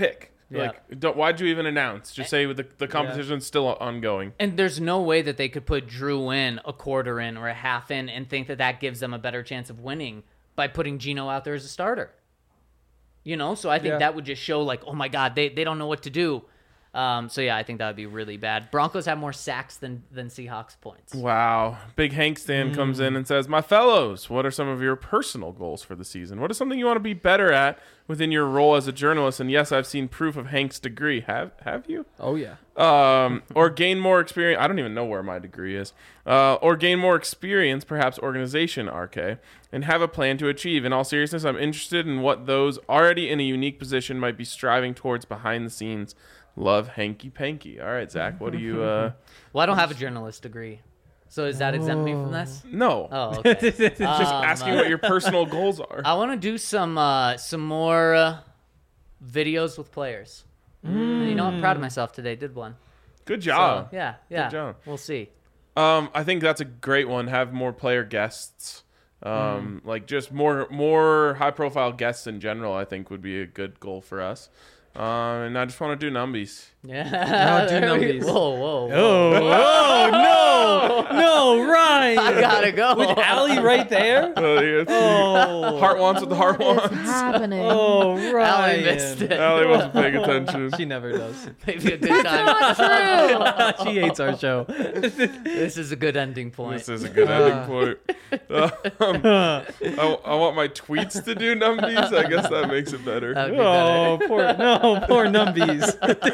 Yeah. Like, don't, why'd you even announce? Just say the the competition's still ongoing. And there's no way that they could put Drew in a quarter in or a half in and think that that gives them a better chance of winning by putting Geno out there as a starter. You know, so I think Yeah. that would just show like, oh my God, they, they don't know what to do. Um, so yeah, I think that would be really bad. Broncos have more sacks than than Seahawks points. Wow. Big Hank Stan comes in and says, my fellows, what are some of your personal goals for the season? What is something you want to be better at within your role as a journalist? And yes, I've seen proof of Hank's degree. Have have you? Oh yeah. Um, or gain more experience. I don't even know where my degree is. Uh, or gain more experience, perhaps organization, R K, and have a plan to achieve. In all seriousness, I'm interested in what those already in a unique position might be striving towards behind the scenes. Love, Hanky Panky. All right, Zach, what do you... Uh... Well, I don't have a journalist degree. So does that exempt me from this? No. Oh, okay. Just Um, asking uh, what your personal goals are. I want to do some uh, some more uh, videos with players. You know, I'm proud of myself today. Did one. Good So, job. yeah, yeah. job. We'll see. Um, I think that's a great one. Have more player guests. Um, like just more more high profile guests in general. I think would be a good goal for us. Um, and I just want to do numbies. Yeah. No, do There we- numbies. Whoa, whoa, whoa. Oh, oh no, no, Ryan. I gotta go. With Allie right there. Uh, yeah, Oh, heart wants what the heart What is wants. happening? oh, Allie Ryan. missed it. Allie wasn't paying attention. She never does. Maybe a good time. Not true. She hates our show. This is a good ending point. This is a good ending point. Um, I, I want my tweets to do numbies. I guess that makes it better. That'd be better. Oh, poor no, poor numbies.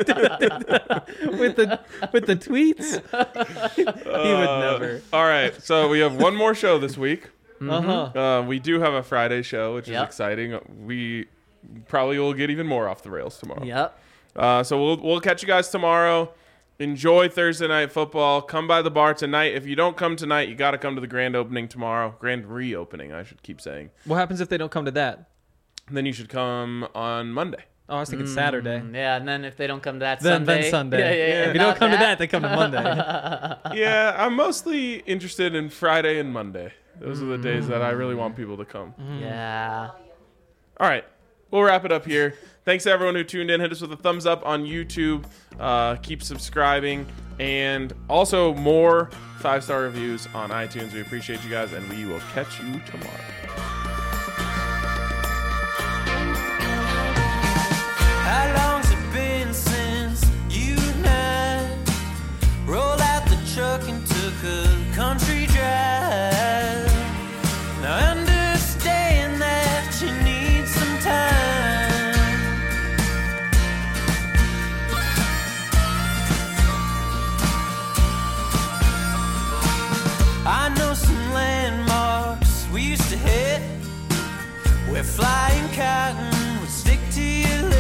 with the with the tweets, he would Uh, never. All right, so we have one more show this week. Uh huh. Uh, we do have a Friday show, which Yep. is exciting. We probably will get even more off the rails tomorrow. Yep. Uh, so we'll we'll catch you guys tomorrow. Enjoy Thursday night football. Come by the bar tonight. If you don't come tonight, you got to come to the grand opening tomorrow. Grand reopening, I should keep saying. What happens if they don't come to that? Then you should come on Monday. Oh, I was thinking Saturday. Mm, Yeah, and then if they don't come to that Then, Sunday. then Sunday. Yeah, yeah, yeah. If you don't Not come to that, they come to Monday. Yeah, I'm mostly interested in Friday and Monday. Those are the days that I really want people to come. Yeah. All right. We'll wrap it up here. Thanks to everyone who tuned in. Hit us with a thumbs up on YouTube. Uh, keep subscribing. And also more five-star reviews on iTunes. We appreciate you guys, and we will catch you tomorrow. How long's it been since you and I rolled out the truck and took a country drive? Now I understand that you need some time. I know some landmarks we used to hit where flying cotton would stick to your lips.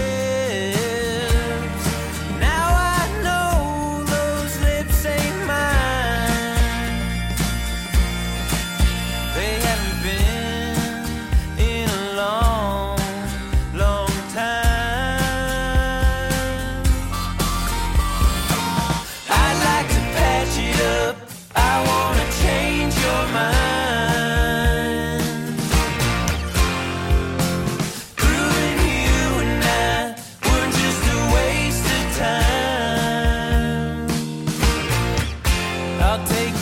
Now I know those lips ain't mine. They haven't been in a long, long time. I'd like to patch it up. I wanna change your mind. Proving you and I were just a waste of time. I'll take